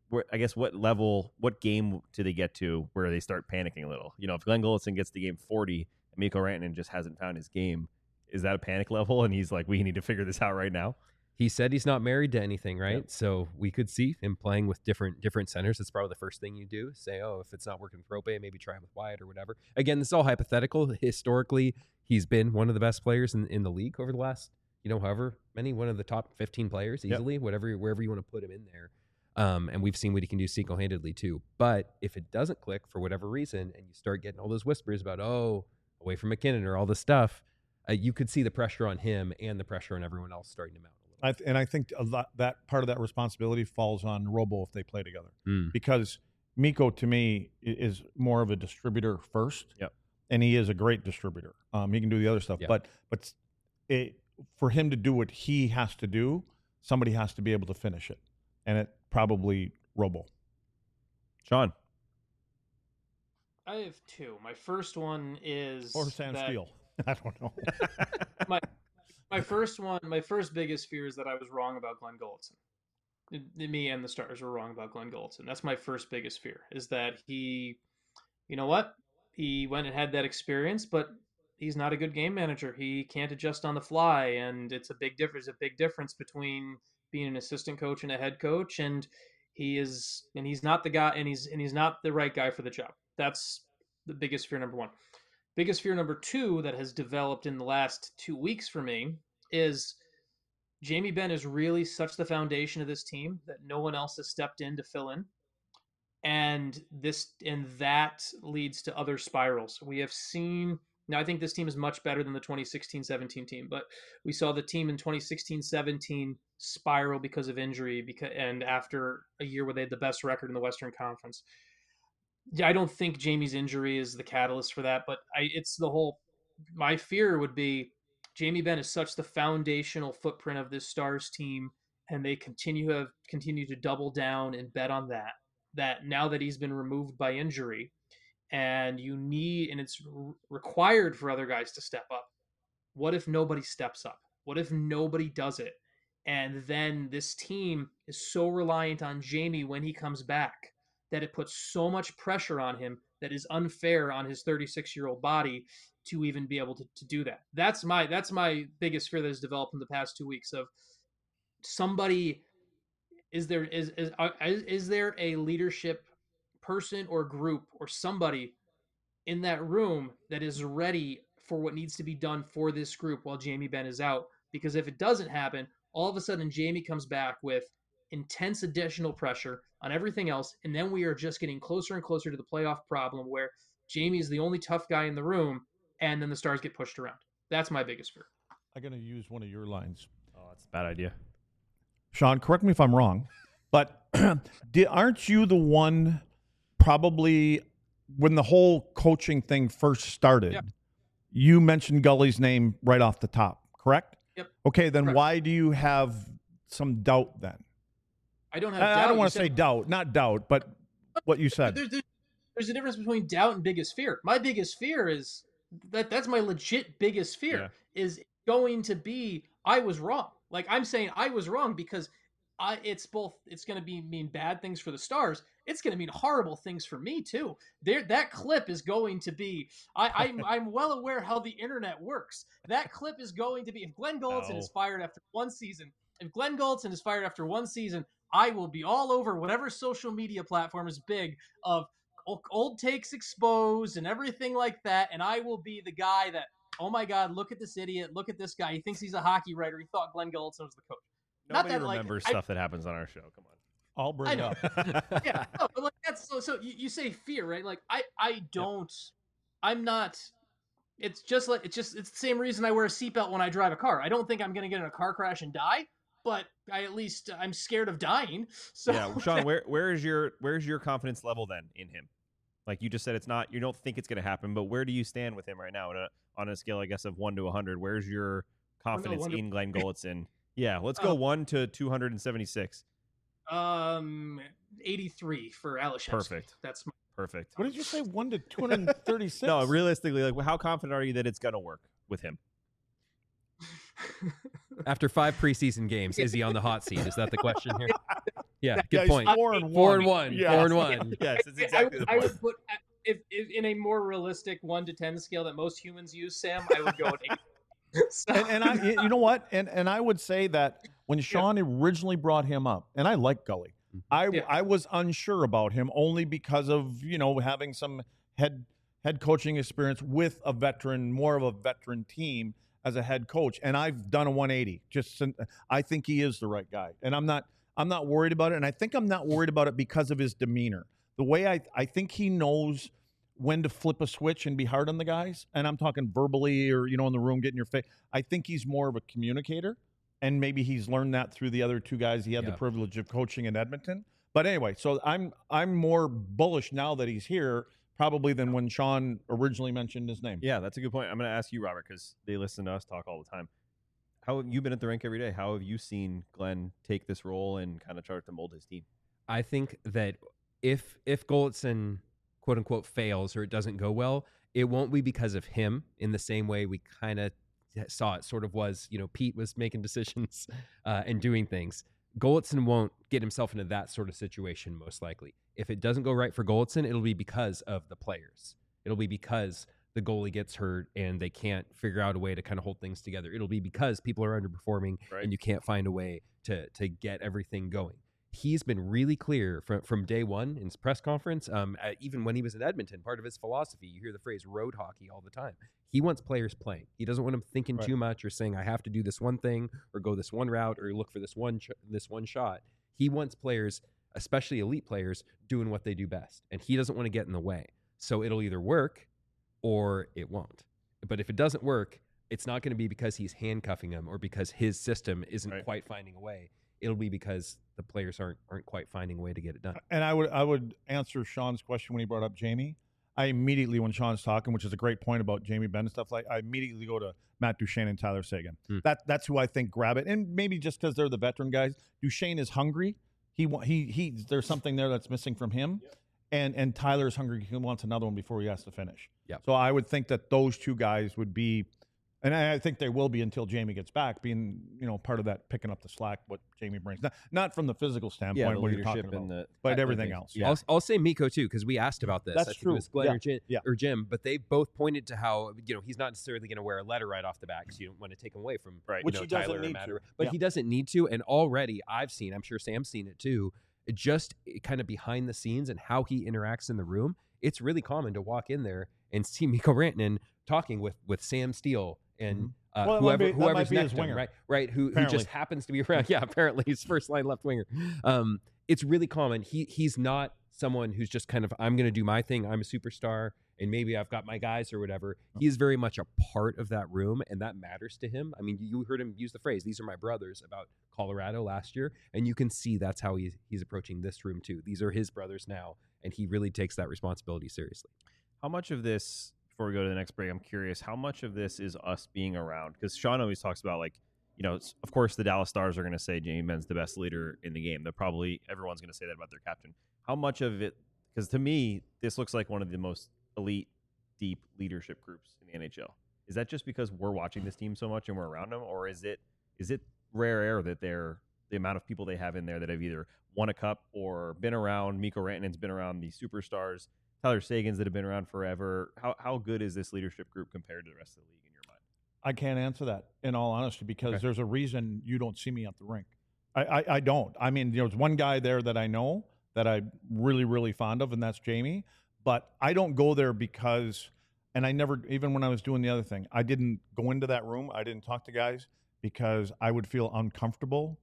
where, I guess what level, what game do they get to where they start panicking a little? You know, if Glenn Gulletson gets to game forty and Mikko Rantanen just hasn't found his game, is that a panic level? And he's like, we need to figure this out right now. He said he's not married to anything, right? Yep. So we could see him playing with different different centers. That's probably the first thing you do. Say, oh, if it's not working with Rope, maybe try with Wyatt or whatever. Again, this is all hypothetical. Historically, he's been one of the best players in, in the league over the last, you know, however many, one of the top fifteen players easily, yep. whatever, wherever you want to put him in there. Um, and we've seen what he can do single-handedly too. But if it doesn't click for whatever reason, and you start getting all those whispers about, oh, away from McKinnon or all this stuff, uh, you could see the pressure on him and the pressure on everyone else starting to mount. I th- and I think a lot, that part of that responsibility falls on Robo if they play together, mm. because Mikko to me is more of a distributor first, yep. and he is a great distributor. Um, he can do the other stuff, yep. but but it, for him to do what he has to do, somebody has to be able to finish it, and it probably Robo. Sean, I have two. My first one is or Sam that... Steele. I don't know. my My first one, my first biggest fear is that I was wrong about Glenn Gulletson. Me and the Stars were wrong about Glenn Gulletson. That's my first biggest fear, is that he, you know what? He went and had that experience, but he's not a good game manager. He can't adjust on the fly, and it's a big difference. A big difference between being an assistant coach and a head coach, and he is, and he's not the guy, and he's and he's not the right guy for the job. That's the biggest fear number one. Biggest fear number two that has developed in the last two weeks for me is Jamie Benn is really such the foundation of this team that no one else has stepped in to fill in. And this and that leads to other spirals. We have seen, now I think this team is much better than the twenty sixteen seventeen team, but we saw the team in twenty sixteen seventeen spiral because of injury because and after a year where they had the best record in the Western Conference. Yeah, I don't think Jamie's injury is the catalyst for that, but I, it's the whole, my fear would be Jamie Benn is such the foundational footprint of this Stars team, and they continue to have, continue to double down and bet on that, that now that he's been removed by injury and you need, and it's re- required for other guys to step up. What if nobody steps up? What if nobody does it? And then this team is so reliant on Jamie when he comes back that it puts so much pressure on him that is unfair on his thirty-six-year-old body to even be able to, to do that. That's my that's my biggest fear that has developed in the past two weeks of somebody, is there is is, uh, is there a leadership person or group or somebody in that room that is ready for what needs to be done for this group while Jamie Benn is out? Because if it doesn't happen, all of a sudden Jamie comes back with intense additional pressure on everything else, and then we are just getting closer and closer to the playoff problem where Jamie is the only tough guy in the room, and then the Stars get pushed around. That's my biggest fear. I'm going to use one of your lines. Oh, that's a bad idea. Sean, correct me if I'm wrong, but did, aren't you the one probably when the whole coaching thing first started, yep. you mentioned Gully's name right off the top, correct? Yep. Okay, then correct. Why do you have some doubt then? I don't have I, doubt. I don't want to say doubt, not doubt, but what you said. There's, there's a difference between doubt and biggest fear. My biggest fear is that that's my legit biggest fear yeah. is going to be I was wrong. Like I'm saying I was wrong because I it's both it's going to be mean bad things for the Stars. It's going to mean horrible things for me too. There that clip is going to be I I'm I'm well aware how the internet works. That clip is going to be if Glenn Gulletson no. is fired after one season. If Glenn Gulletson is fired after one season, I will be all over whatever social media platform is big of old takes exposed and everything like that. And I will be the guy that, oh my God, look at this idiot. Look at this guy. He thinks he's a hockey writer. He thought Glenn Gulletson was the coach. Nobody Not that, remembers like, stuff I, that happens on our show. Come on. I'll bring I it know. up. yeah. No, but like that's so, so you, you say fear, right? Like I, I don't, yep. I'm not, it's just like, it's just, it's the same reason I wear a seatbelt when I drive a car. I don't think I'm going to get in a car crash and die, but I at least I'm scared of dying. So yeah, Sean, where where is your where's your confidence level then in him? Like you just said, it's not you don't think it's going to happen, but where do you stand with him right now on a, on a scale, I guess, of one to a hundred? Where's your confidence oh, no, in Glenn Gulletson? Yeah, let's go uh, one to two hundred and seventy six. Um, eighty-three for Alashevsky. Perfect. That's my perfect. What did you say? One to two hundred and thirty six? No, realistically, like how confident are you that it's going to work with him? After five preseason games, is he on the hot seat? Is that the question here? Yeah, That- good Yeah, he's point. Four and Four one. and one. Yeah. Four and one. Yes, it's I, exactly would- the I point. would put uh, if, if in a more realistic one to ten scale that most humans use, Sam, I would go an eight. So- And, and I, y- you know what? And and I would say that when Sean originally brought him up, and I like Gully, I Yeah. I was unsure about him only because of you know having some head head coaching experience with a veteran, more of a veteran team as a head coach, and I've done a one eighty. Just sin- I think he is the right guy, and I'm not I'm not worried about it, and I think I'm not worried about it because of his demeanor. The way I I think he knows when to flip a switch and be hard on the guys. And I'm talking verbally or, you know, in the room, getting your face. I think he's more of a communicator. And maybe he's learned that through the other two guys he had Yeah. the privilege of coaching in Edmonton. But anyway, so I'm I'm more bullish now that he's here, probably than when Sean originally mentioned his name. Yeah, that's a good point. I'm going to ask you, Robert, because they listen to us talk all the time. How have you been at the rink every day? How have you seen Glenn take this role and kind of try to mold his team? I think that if if Golitzin quote unquote fails or it doesn't go well, it won't be because of him in the same way we kind of saw it sort of was, you know, Pete was making decisions uh, and doing things. Golitzin won't get himself into that sort of situation, most likely. If it doesn't go right for Golitzin, it'll be because of the players. It'll be because the goalie gets hurt and they can't figure out a way to kind of hold things together. It'll be because people are underperforming Right. and you can't find a way to to get everything going. He's been really clear from, from day one in his press conference, um, uh, even when he was in Edmonton. Part of his philosophy, you hear the phrase road hockey all the time. He wants players playing. He doesn't want them thinking Right. too much or saying, I have to do this one thing or go this one route or look for this one ch- this one shot. He wants players, especially elite players, doing what they do best. And he doesn't want to get in the way. So it'll either work or it won't. But if it doesn't work, it's not going to be because he's handcuffing them or because his system isn't Right. quite finding a way. It'll be because the players aren't aren't quite finding a way to get it done. And I would I would answer Sean's question when he brought up Jamie. I immediately, when Sean's talking, which is a great point about Jamie Benn and stuff like, I immediately go to Matt Duchene and Tyler Seguin. Hmm. That that's who I think grab it, and maybe just because they're the veteran guys. Duchene is hungry. He wa- he he. There's something there that's missing from him, and and Tyler's hungry. He wants another one before he has to finish. Yep. So I would think that those two guys would be. And I I think they will be until Jamie gets back, being you know part of that picking up the slack what Jamie brings. Not, not from the physical standpoint, Yeah, the what you're talking leadership about, and the but I- I everything think- else. Yeah. I'll, I'll say Miko too, because we asked about this. That's I think true. It was Glenn Yeah. or, Jim, Yeah. or Jim, but they both pointed to how you know he's not necessarily going to wear a letter right off the bat because you don't want to take him away from Right. you Which know, he doesn't Tyler or need Matt to. or- But Yeah. he doesn't need to. And already I've seen, I'm sure Sam's seen it too, just kind of behind the scenes and how he interacts in the room. It's really common to walk in there and see Miko Rantanen talking with with Sam Steele and. Mhm. Uh, Well, that might whoever, be- that might whoever's be his next to him, winger. right? Right, who, who Apparently. just happens to be around. Yeah, apparently he's first line left winger. Um, it's really common. He he's not someone who's just kind of I'm going to do my thing. I'm a superstar, and maybe I've got my guys or whatever. He is very much a part of that room, and that matters to him. I mean, you heard him use the phrase "These are my brothers" about Colorado last year, and you can see that's how he's he's approaching this room too. These are his brothers now, and he really takes that responsibility seriously. How much of this, before we go to the next break, I'm curious, how much of this is us being around? Because Sean always talks about, like, you know, it's- of course, the Dallas Stars are going to say Jamie Benn's the best leader in the game. They're probably, everyone's going to say that about their captain. How much of it, because to me, this looks like one of the most elite, deep leadership groups in the N H L. Is that just because we're watching this team so much and we're around them? Or is it is it rare air that they're, the amount of people they have in there that have either won a cup or been around? Miko Rantanen's been around the superstars. Tyler Seguin's that have been around forever. How how good is this leadership group compared to the rest of the league in your mind? I can't answer that in all honesty because Okay. there's a reason you don't see me at the rink. I, I, I don't. I mean, there's one guy there that I know that I'm really, really fond of, and that's Jamie. But I don't go there because, and I never, even when I was doing the other thing, I didn't go into that room. I didn't talk to guys because I would feel uncomfortable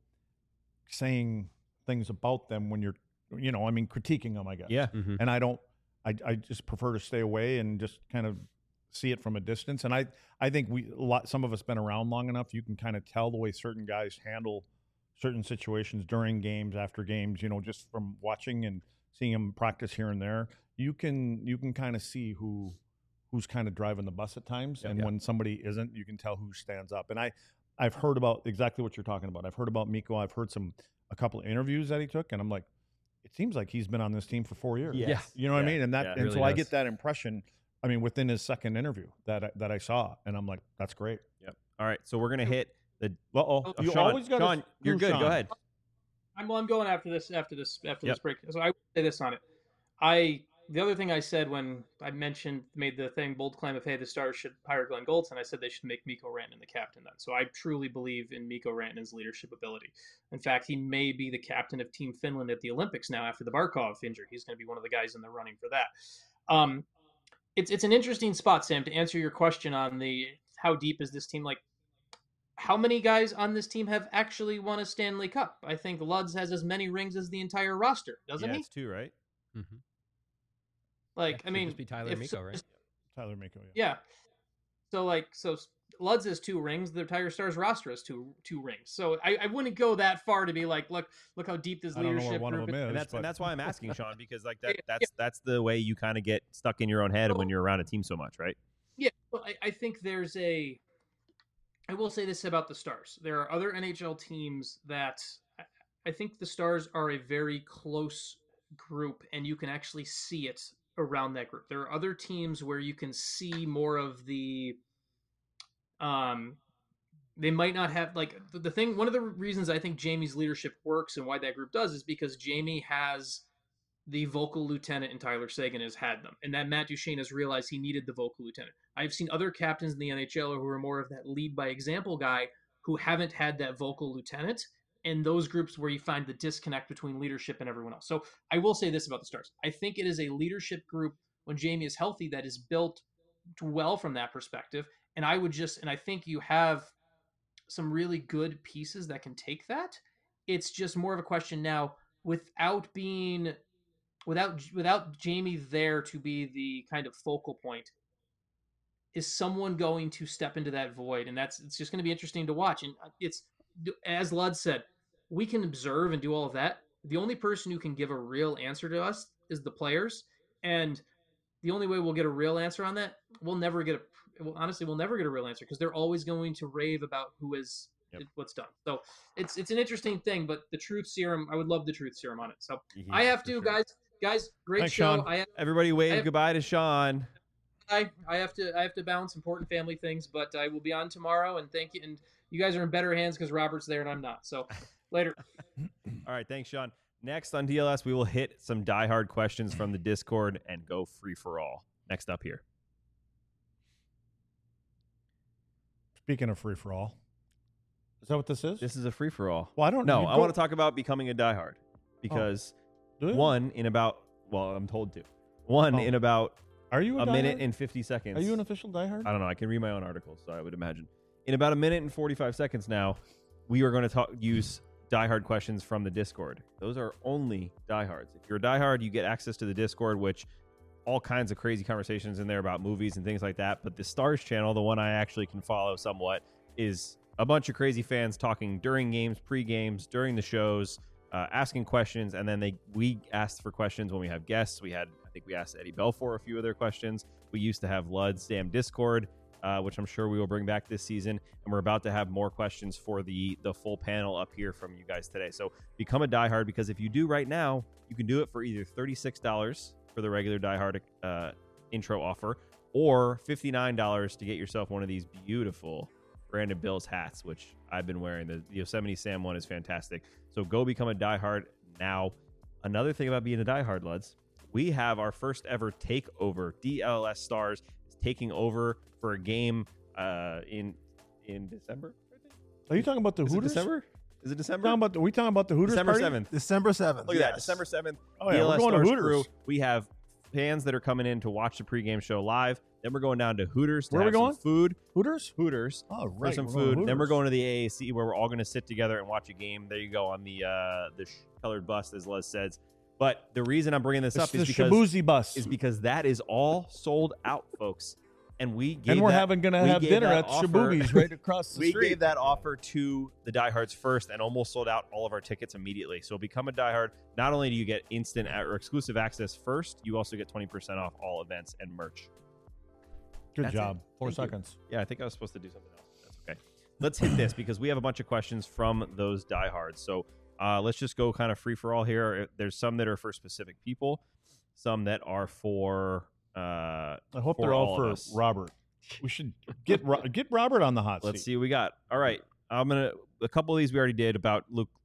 saying things about them when you're, you know, I mean, critiquing them, I guess. Yeah. Mm-hmm. And I don't, I, I just prefer to stay away and just kind of see it from a distance. And I, I think we, a lot, some of us been around long enough, you can kind of tell the way certain guys handle certain situations during games, after games, you know, just from watching and seeing them practice here and there. You can, you can kind of see who, who's kind of driving the bus at times. Yeah, and yeah. when somebody isn't, you can tell who stands up. And I, I've heard about exactly what you're talking about. I've heard about Miko. I've heard some, a couple of interviews that he took, and I'm like, it seems like he's been on this team for four years. Yes. Yeah. You know what I Yeah, mean? And that, yeah. and Really so I does. get that impression. I mean, within his second interview that I, that I saw, and I'm like, that's great. Yep. All right. So we're gonna hit the. Well, oh, Oh, you Sean, always got Sean, you're good. Go ahead. I'm, well, I'm going after this after this after Yep. this break. So I would say this on it. I the other thing I said when I mentioned made the thing bold claim of hey the Stars should hire Glenn Goldson, I said they should make Mikko Rantanen the captain then. So I truly believe in Mikko Rantanen's leadership ability. In fact, he may be the captain of Team Finland at the Olympics now after the Barkov injury. He's going to be one of the guys in the running for that. Um, it's it's an interesting spot, Sam, to answer your question on the how deep is this team. Like, how many guys on this team have actually won a Stanley Cup? I think Luds has as many rings as the entire roster, doesn't yeah, he? it's two, right? Mm-hmm. Like, Yeah, I mean, just be Tyler if Mikko, so- right? Tyler Mikko. Yeah. Yeah. So like, so Luds has two rings. The Tiger Stars roster has two two rings. So I, I wouldn't go that far to be like, look, look how deep this I don't know leadership where one of group them is. is. And that's but and that's why I'm asking Sean, because like that Yeah, that's that's the way you kind of get stuck in your own head So- when you're around a team so much, right? Yeah, well, I, I think there's a. I will say this about the Stars. There are other N H L teams that I- I think the Stars are a very close group, and you can actually see it around that group. There are other teams where you can see more of the. Um, they might not have like the, the thing. One of the reasons I think Jamie's leadership works and why that group does is because Jamie has the vocal lieutenant and Tyler Seguin has had them. And that Matt Duchene has realized he needed the vocal lieutenant. I've seen other captains in the N H L who are more of that lead by example guy who haven't had that vocal lieutenant. And those groups where you find the disconnect between leadership and everyone else. So I will say this about the Stars. I think it is a leadership group when Jamie is healthy that is built well from that perspective. And I would just, and I think you have some really good pieces that can take that. It's just more of a question now without being without without Jamie there to be the kind of focal point, is someone going to step into that void? And that's it's just going to be interesting to watch. And it's, as Lud said, we can observe and do all of that. The only person who can give a real answer to us is the players. And the only way we'll get a real answer on that, we'll never get a well, honestly, we'll never get a real answer because they're always going to rave about who is Yep. what's done. So it's it's an interesting thing, but the truth serum, I would love the truth serum on it. So Yeah, I have for to, sure. guys. Guys, great Thanks, show. Sean. I have, Everybody wave I have- goodbye to Sean. I, I have to I have to balance important family things, but I will be on tomorrow. And thank you. And you guys are in better hands because Robert's there and I'm not. So later. All right, thanks, Sean. Next on D L S, we will hit some diehard questions from the Discord and go free for all. Next up here. Speaking of free for all, is that what this is? This is a free for all. well, I don't No, you I go- want to talk about becoming a diehard because Do you? one in about well, I'm told to. One Oh. in about Are you a, a minute diehard? and fifty seconds. Are you an official diehard? I don't know. I can read my own articles, so I would imagine. In about a minute and forty-five seconds now, we are going to talk use diehard questions from the Discord. Those are only diehards. If you're a diehard, you get access to the Discord, which all kinds of crazy conversations in there about movies and things like that. But the Stars channel, the one I actually can follow somewhat, is a bunch of crazy fans talking during games, pre-games, during the shows, uh, asking questions, and then they we asked for questions when we have guests. We had, I think we asked Eddie Belfour a few of their questions. We used to have Lud's damn Discord, uh, which I'm sure we will bring back this season, and we're about to have more questions for the the full panel up here from you guys today. So become a diehard, because if you do right now, you can do it for either thirty-six dollars for the regular diehard uh, intro offer, or fifty-nine dollars to get yourself one of these beautiful Brandon Bills hats, which I've been wearing. The Yosemite Sam one is fantastic. So go become a diehard now. Another thing about being a diehard, Luds, we have our first ever takeover. D L S Stars is taking over for a game uh, in in December. I think. Are you talking about the Is it Hooters? December? Is it December? Talking about the, we talking about the Hooters December party? seventh. December seventh. Look at that, yes. December seventh. Oh yeah, D L S we're going to Stars Hooters. crew. We have fans that are coming in to watch the pregame show live. Then we're going down to Hooters to Where are we have some going? food. Hooters? Hooters Oh, for right. some we're going to food. Then we're Hooters. going to the A A C where we're all going to sit together and watch a game. There you go on the uh, the sh- colored bus, as Les says. But the reason I'm bringing this It's up the is because Shabuzi bus. is because that is all sold out, folks. And we gave and we're that, having going to we have gave dinner that at offer- Shabuzi's right across the we street. gave that offer to the diehards first and almost sold out all of our tickets immediately. So become a diehard. Not only do you get instant or exclusive access first, you also get twenty percent off all events and merch. Good That's job. it. Four Thank you. seconds. Yeah, I think I was supposed to do something else. That's okay. Let's hit this because we have a bunch of questions from those diehards. So uh, let's just go kind of free for all here. There's some that are for specific people, some that are for. Uh, I hope for they're all, all of for us. Robert. We should get Ro- get Robert on the hot Let's seat. see what we got. All right, I'm gonna. A couple of these we already did about Luke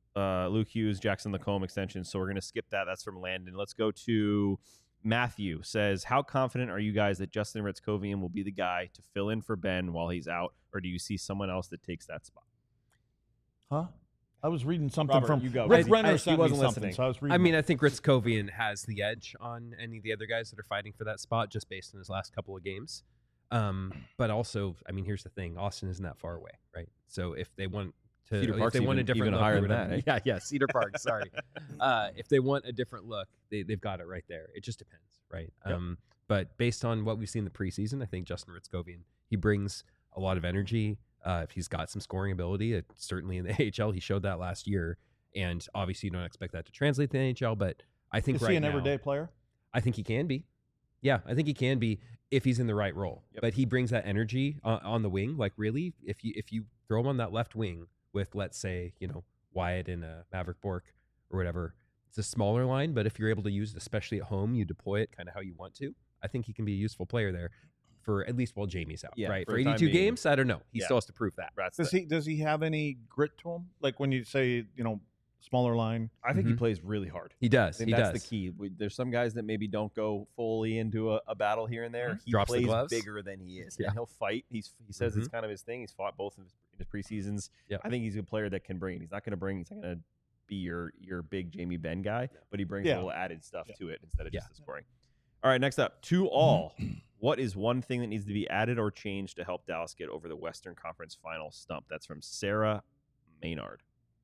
uh, Luke Hughes, Jackson Lacombe extension. So we're going to skip that. That's from Landon. Let's go to Matthew. Says, how confident are you guys that Justin Ritzkovian will be the guy to fill in for Ben while he's out, or do you see someone else that takes that spot? Huh? I was reading something Robert, from you go. Rick I- Renner I- he sent me wasn't something, listening. so I was reading. I mean, that. I think Ritzkovian has the edge on any of the other guys that are fighting for that spot just based on his last couple of games. Um, but also, I mean, here's the thing: Austin isn't that far away, right? So if they want to, Cedar if Park's they want a even- different even look or higher than whatever- that, eh? yeah, yeah, Cedar Park. Sorry, uh, if they want a different look, they they've got it right there. It just depends, right? Yep. Um, but based on what we've seen in the preseason, I think Justin Ritzkovian, he brings a lot of energy. Uh, if he's got some scoring ability, it, certainly in the A H L, he showed that last year. And obviously, you don't expect that to translate to the N H L, but I think Is right he an now, everyday player? I think he can be. Yeah, I think he can be if he's in the right role. Yep. But he brings that energy uh, on the wing. Like really, if you if you throw him on that left wing with, let's say, you know, Wyatt and uh, Maverick Bork or whatever, it's a smaller line. But if you're able to use it, especially at home, you deploy it kind of how you want to. I think he can be a useful player there for at least while Jamie's out. Yeah, right for for the time eighty-two being. games, I don't know. He Yeah. still has to prove that. That's Does the- he does he have any grit to him? Like when you say, you know, smaller line. I think he Mhm. plays really hard. He does. I think He that's does. the key. We, there's some guys that maybe don't go fully into a, a battle here and there. He Drops the plays gloves. bigger than he is, Yeah. and he'll fight. He's he says it's kind of his thing. He's fought both in his, in his preseasons. Yep. I think he's a player that can bring it. He's not going to bring. He's not going to be your your big Jamie Benn guy, but he brings Yeah. a little added stuff Yeah. to it instead of Yeah. just the scoring. All right, next up, to all. What is one thing that needs to be added or changed to help Dallas get over the Western Conference Final stump? That's from Sarah Maynard.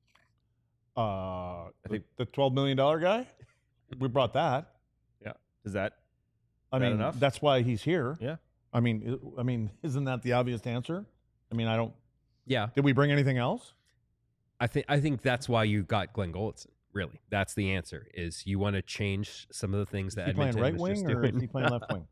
Uh, I think- the twelve million dollar guy. We brought that. Is that I That mean, enough? that's why he's here. Yeah. I mean, I I mean, isn't that the obvious answer? I mean, I don't. Yeah. Did we bring anything else? I think I think that's why you got Glenn Golitzin. Really, that's the answer. Is you want to change some of the things Is that he playing Edmonton right was just wing or doing. is he playing left wing?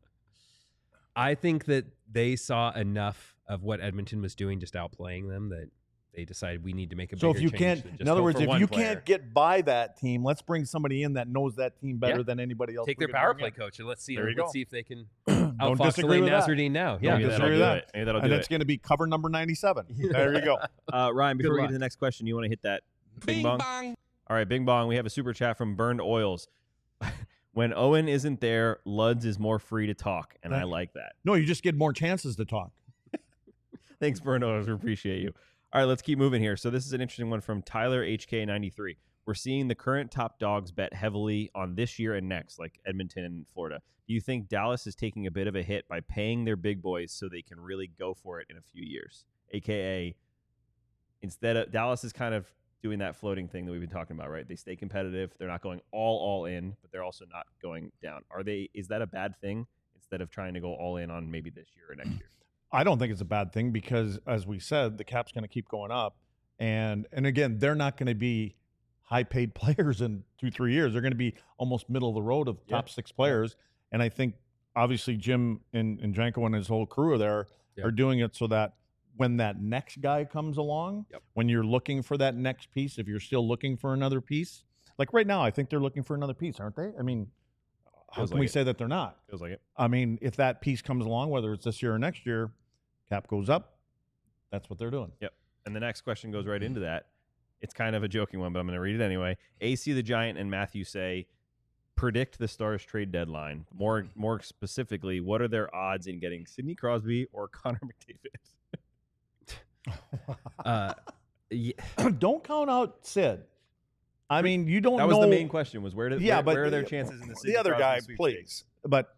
I think that they saw enough of what Edmonton was doing, just outplaying them, that they decided we need to make a So bigger if you change can't, than just in other go words, for if one you player. can't get by that team, let's bring somebody in that knows that team better Yeah. than anybody else. take we their could power bring play coach and let's see. There you let's go. see if they can in. Don't outfox disagree Elaine with that. Nazardine now. Maybe Yeah, Don't that'll disagree do with that. it. Maybe that'll And do it's it. going to be cover number ninety-seven. There you go. Uh, Ryan, before we get luck. to the next question, you want to hit that Bing, bong? All right, Bing Bong. We have a super chat from Burned Oils. When Owen isn't there, Luds is more free to talk, and I Thank you. like that. No, you just get more chances to talk. Thanks, Burned Oils. We appreciate you. All right, let's keep moving here. So this is an interesting one from Tyler H K ninety-three. We're seeing the current top dogs bet heavily on this year and next, like Edmonton and Florida. Do you think Dallas is taking a bit of a hit by paying their big boys so they can really go for it in a few years? A K A, instead of Dallas is kind of doing that floating thing that we've been talking about, right? They stay competitive. They're not going all all in, but they're also not going down. Are they? Is that a bad thing instead of trying to go all in on maybe this year or next year? I don't think it's a bad thing because, as we said, the cap's going to keep going up, and and again, they're not going to be high-paid players in two three years. They're going to be almost middle of the road of Yeah. top six players, and I think obviously Jim and, and Janko and his whole crew are there Yep. are doing it so that when that next guy comes along, Yep. when you're looking for that next piece, if you're still looking for another piece, like right now, I think they're looking for another piece, aren't they? I mean, how Feels can like we it. say that they're not? Feels like it. I mean, if that piece comes along, whether it's this year or next year, cap goes up. That's what they're doing. And the next question goes right into that. It's kind of a joking one, but I'm going to read it anyway. A C the Giant and Matthew say, predict the Stars trade deadline. More more specifically, what are their odds in getting Sidney Crosby or Connor McDavid? Uh, yeah, Don't count out Sid. I mean, you don't That was know. the main question was where, did, yeah, where, but where are their chances in the Sidney the other Crosby guy, sweepstakes? please. But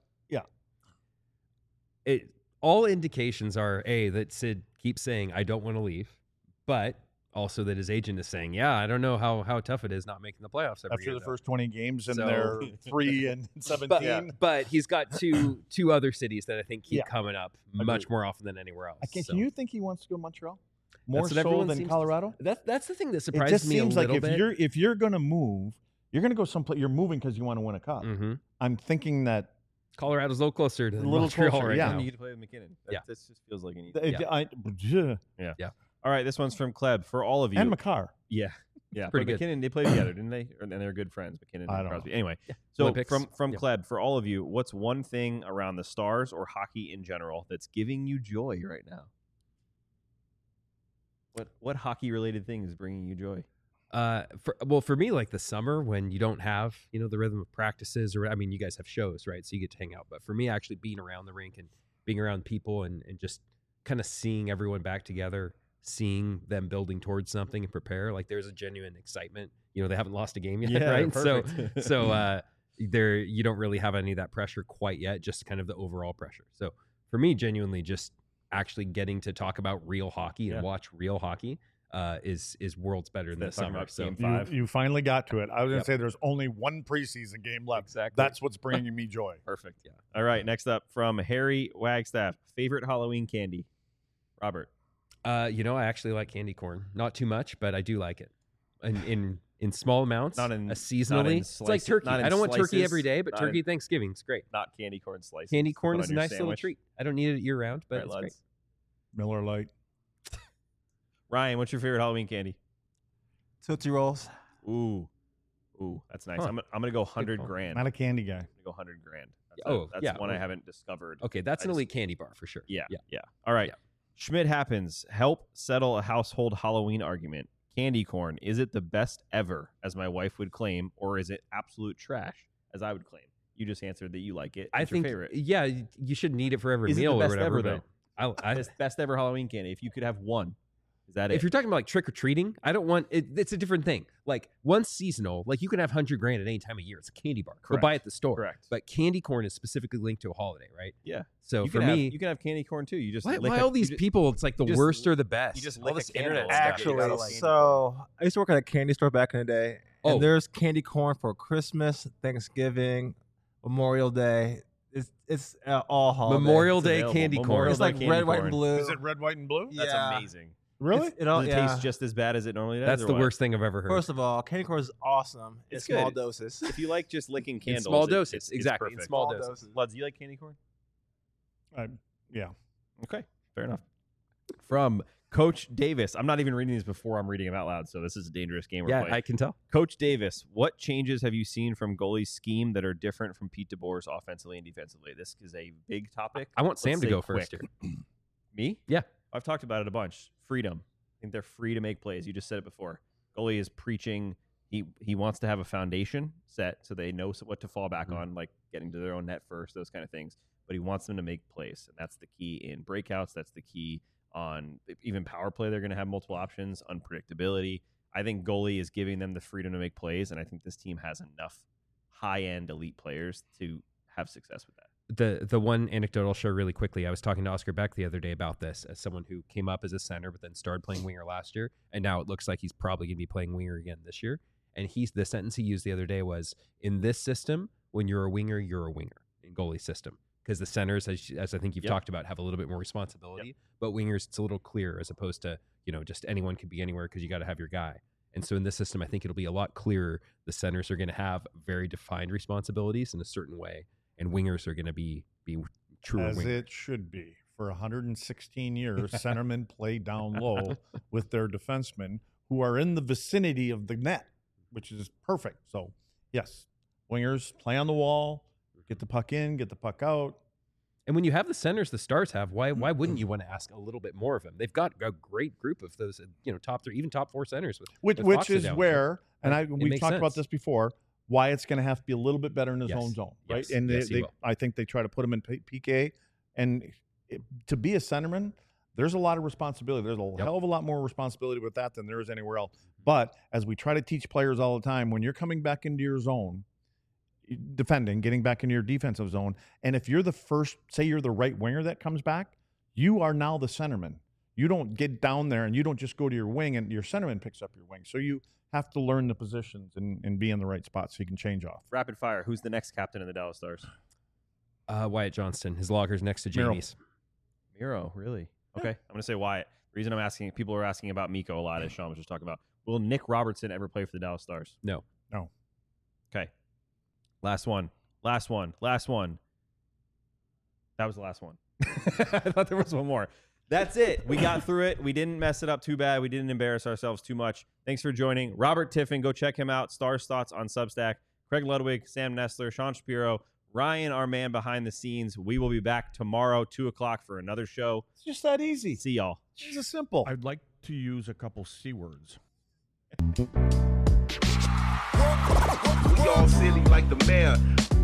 it, all indications are a that Sid keeps saying I don't want to leave, but also that his agent is saying, yeah, I don't know how how tough it is not making the playoffs every after year. the though." first twenty games and So- they're three and but, seventeen, but he's got two two other cities that I think keep Yeah. coming up Agreed. much more often than anywhere else. I can, So can you think he wants to go to Montreal more that's what so everyone than seems to- Colorado? That that's the thing that It surprises just me seems a like little if bit. you're if you're going to move, you're going to go someplace. You're moving because you want to win a cup. hmm I'm thinking that Colorado's a little closer to A little Montreal closer, right yeah. now. You get to play with McKinnon. That, Yeah. This just feels like an easy. th- Yeah. I, yeah. All right, this one's from Kleb. For all of you. and McCarr. Yeah. Yeah, pretty but good. McKinnon, they played together, didn't they? Or- And they're good friends, McKinnon I and don't Crosby. know. Anyway, Yeah. so Olympics. from from Yeah. Kleb, for all of you, what's one thing around the Stars or hockey in general that's giving you joy right now? What what hockey related thing is bringing you joy? Uh, for, well, for me, like the summer when you don't have, you know, the rhythm of practices, or I mean, you guys have shows, right? So you get to hang out. But for me, actually being around the rink and being around people and, and just kind of seeing everyone back together, seeing them building towards something and prepare, like there's a genuine excitement. You know, they haven't lost a game yet, Yeah, right? So, perfect. so uh, there you don't really have any of that pressure quite yet, just kind of the overall pressure. So for me, genuinely, just actually getting to talk about real hockey and Yeah. watch real hockey. Uh, is is worlds better than the Instead of talking summer. about So game You, Five. you finally got to it. I was going Yep. to say there's only one preseason game left. exactly. That's what's bringing me joy. Perfect. Yeah. All right. Next up from Harry Wagstaff. Favorite Halloween candy? Robert. Uh, you know, I actually like candy corn. Not too much, but I do like it. In in, in small amounts, Not in- uh, not seasonally. in it's like slices- turkey. not in I don't want turkey slices, every day, but not turkey in- Thanksgiving's great. Not candy corn slices. Candy to corn put is on a your nice little sandwich. treat. I don't need it year round, but Right, it's lads? great. Miller Lite. Ryan, what's your favorite Halloween candy? Tootsie Rolls. Ooh. Ooh, that's nice. Huh. I'm, I'm going to go one hundred call. grand. Not I'm a candy guy. going to go one hundred grand. That's Oh, a, that's yeah. one I Oh. haven't discovered. Okay, that's I an just- elite candy bar for sure. Yeah, yeah. yeah. All right. Yeah. Schmidt happens. Help settle a household Halloween argument. Candy corn, is it the best ever, as my wife would claim, or is it absolute trash, as I would claim? You just answered that you like it. I It's think, your favorite. yeah, y- you shouldn't eat it for every Is it the meal or best whatever. ever, but I, I, Best, best ever Halloween candy. If you could have one, is that if it? you're talking about like trick or treating, I don't want it. It's a different thing. Like one's seasonal, like you can have hundred grand at any time of year. It's a candy bar. Go buy Correct. it at the store. Correct. But candy corn is specifically linked to a holiday, right? Yeah. So you for can me, have, you can have candy corn too. You just why, lick why a- all you these ju- people? It's like the you just- worst or the best. you just all lick this a candle internet and stuff. get it out Actually, of candy so I used to work at a candy store back in the day, Oh. and there's candy corn for Christmas, Thanksgiving, Memorial Day. It's it's uh, all holidays. Memorial It's Day available. candy Memorial corn. It's Day like candy red, white, corn. and blue. Is it red, white, and blue? That's Yeah. amazing. Really? It's- it all, Does it yeah. taste just as bad as it normally does? That's or the what? worst thing I've ever heard. First of all, candy corn is awesome in It's small good. doses. If you like just licking in candles, small it- doses, it's- it's exactly. In perfect. small Small doses. doses. Luds, do you like candy corn? I, yeah. Okay, fair enough. From Coach Davis. I'm not even reading these before I'm reading them out loud, so this is a dangerous game we're Yeah, playing. I can tell. Coach Davis, what changes have you seen from goalie's scheme that are different from Pete DeBoer's offensively and defensively? This is a big topic. I want Let's Sam to say go quick. first here. Me? Yeah. I've talked about it a bunch. Freedom. I think they're free to make plays. You just said it before. Goalie is preaching. He he wants to have a foundation set so they know what to fall back Mhm. on, like getting to their own net first, those kind of things. But he wants them to make plays, and that's the key in breakouts. That's the key on even power play. They're going to have multiple options, unpredictability. I think goalie is giving them the freedom to make plays, and I think this team has enough high-end elite players to have success with that. the the one anecdote I'll share really quickly. I was talking to Oscar Beck the other day about this as someone who came up as a center, but then started playing winger last year, and now it looks like he's probably going to be playing winger again this year. And he's the sentence he used the other day was, "In this system, when you're a winger, you're a winger in goalie system." Because the centers, as, as I think you've Yep. talked about, have a little bit more responsibility. But wingers, it's a little clearer as opposed to, you know, just anyone could be anywhere because you got to have your guy. And so in this system, I think it'll be a lot clearer. The centers are going to have very defined responsibilities in a certain way, and wingers are going to be be true As wingers. it should be. For one hundred sixteen years, centermen play down low with their defensemen who are in the vicinity of the net, which is perfect. So, yes, wingers play on the wall, get the puck in, get the puck out. And when you have the centers the Stars have, why why wouldn't you want to ask a little bit more of them? They've got a great group of those, you know, top three, even top four centers. With, Which, with which Foxa is down there. where, and I It we've makes talked about sense. this before, why it's going to have to be a little bit better in his Yes. own zone, right? Yes. And Yes, they, he they, will. I think they try to put him in P- PK, and it, to be a centerman, there's a lot of responsibility. There's a Yep. hell of a lot more responsibility with that than there is anywhere else. But as we try to teach players all the time, when you're coming back into your zone, defending, getting back into your defensive zone, and if you're the first, say you're the right winger that comes back, you are now the centerman. You don't get down there and you don't just go to your wing and your centerman picks up your wing. So you have to learn the positions and, and be in the right spot so you can change off. Rapid fire. Who's the next captain of the Dallas Stars? Uh, Wyatt Johnston, his locker's next to Miro. Jamie's. Miro, really? Okay, I'm going to say Wyatt. The reason I'm asking, people are asking about Miko a lot, as Sean was just talking about. Will Nick Robertson ever play for the Dallas Stars? No. No. Okay. Last one. Last one. Last one. That was the last one. I thought there was one more. That's it. We got through it. We didn't mess it up too bad. We didn't embarrass ourselves too much. Thanks for joining. Robert Tiffin, go check him out. Stars Thoughts on Substack. Craig Ludwig, Sam Nestler, Sean Shapiro, Ryan, our man behind the scenes. We will be back tomorrow, two o'clock, for another show. It's just that easy. See y'all. It's just simple. I'd like to use a couple C words. We all silly like the mayor.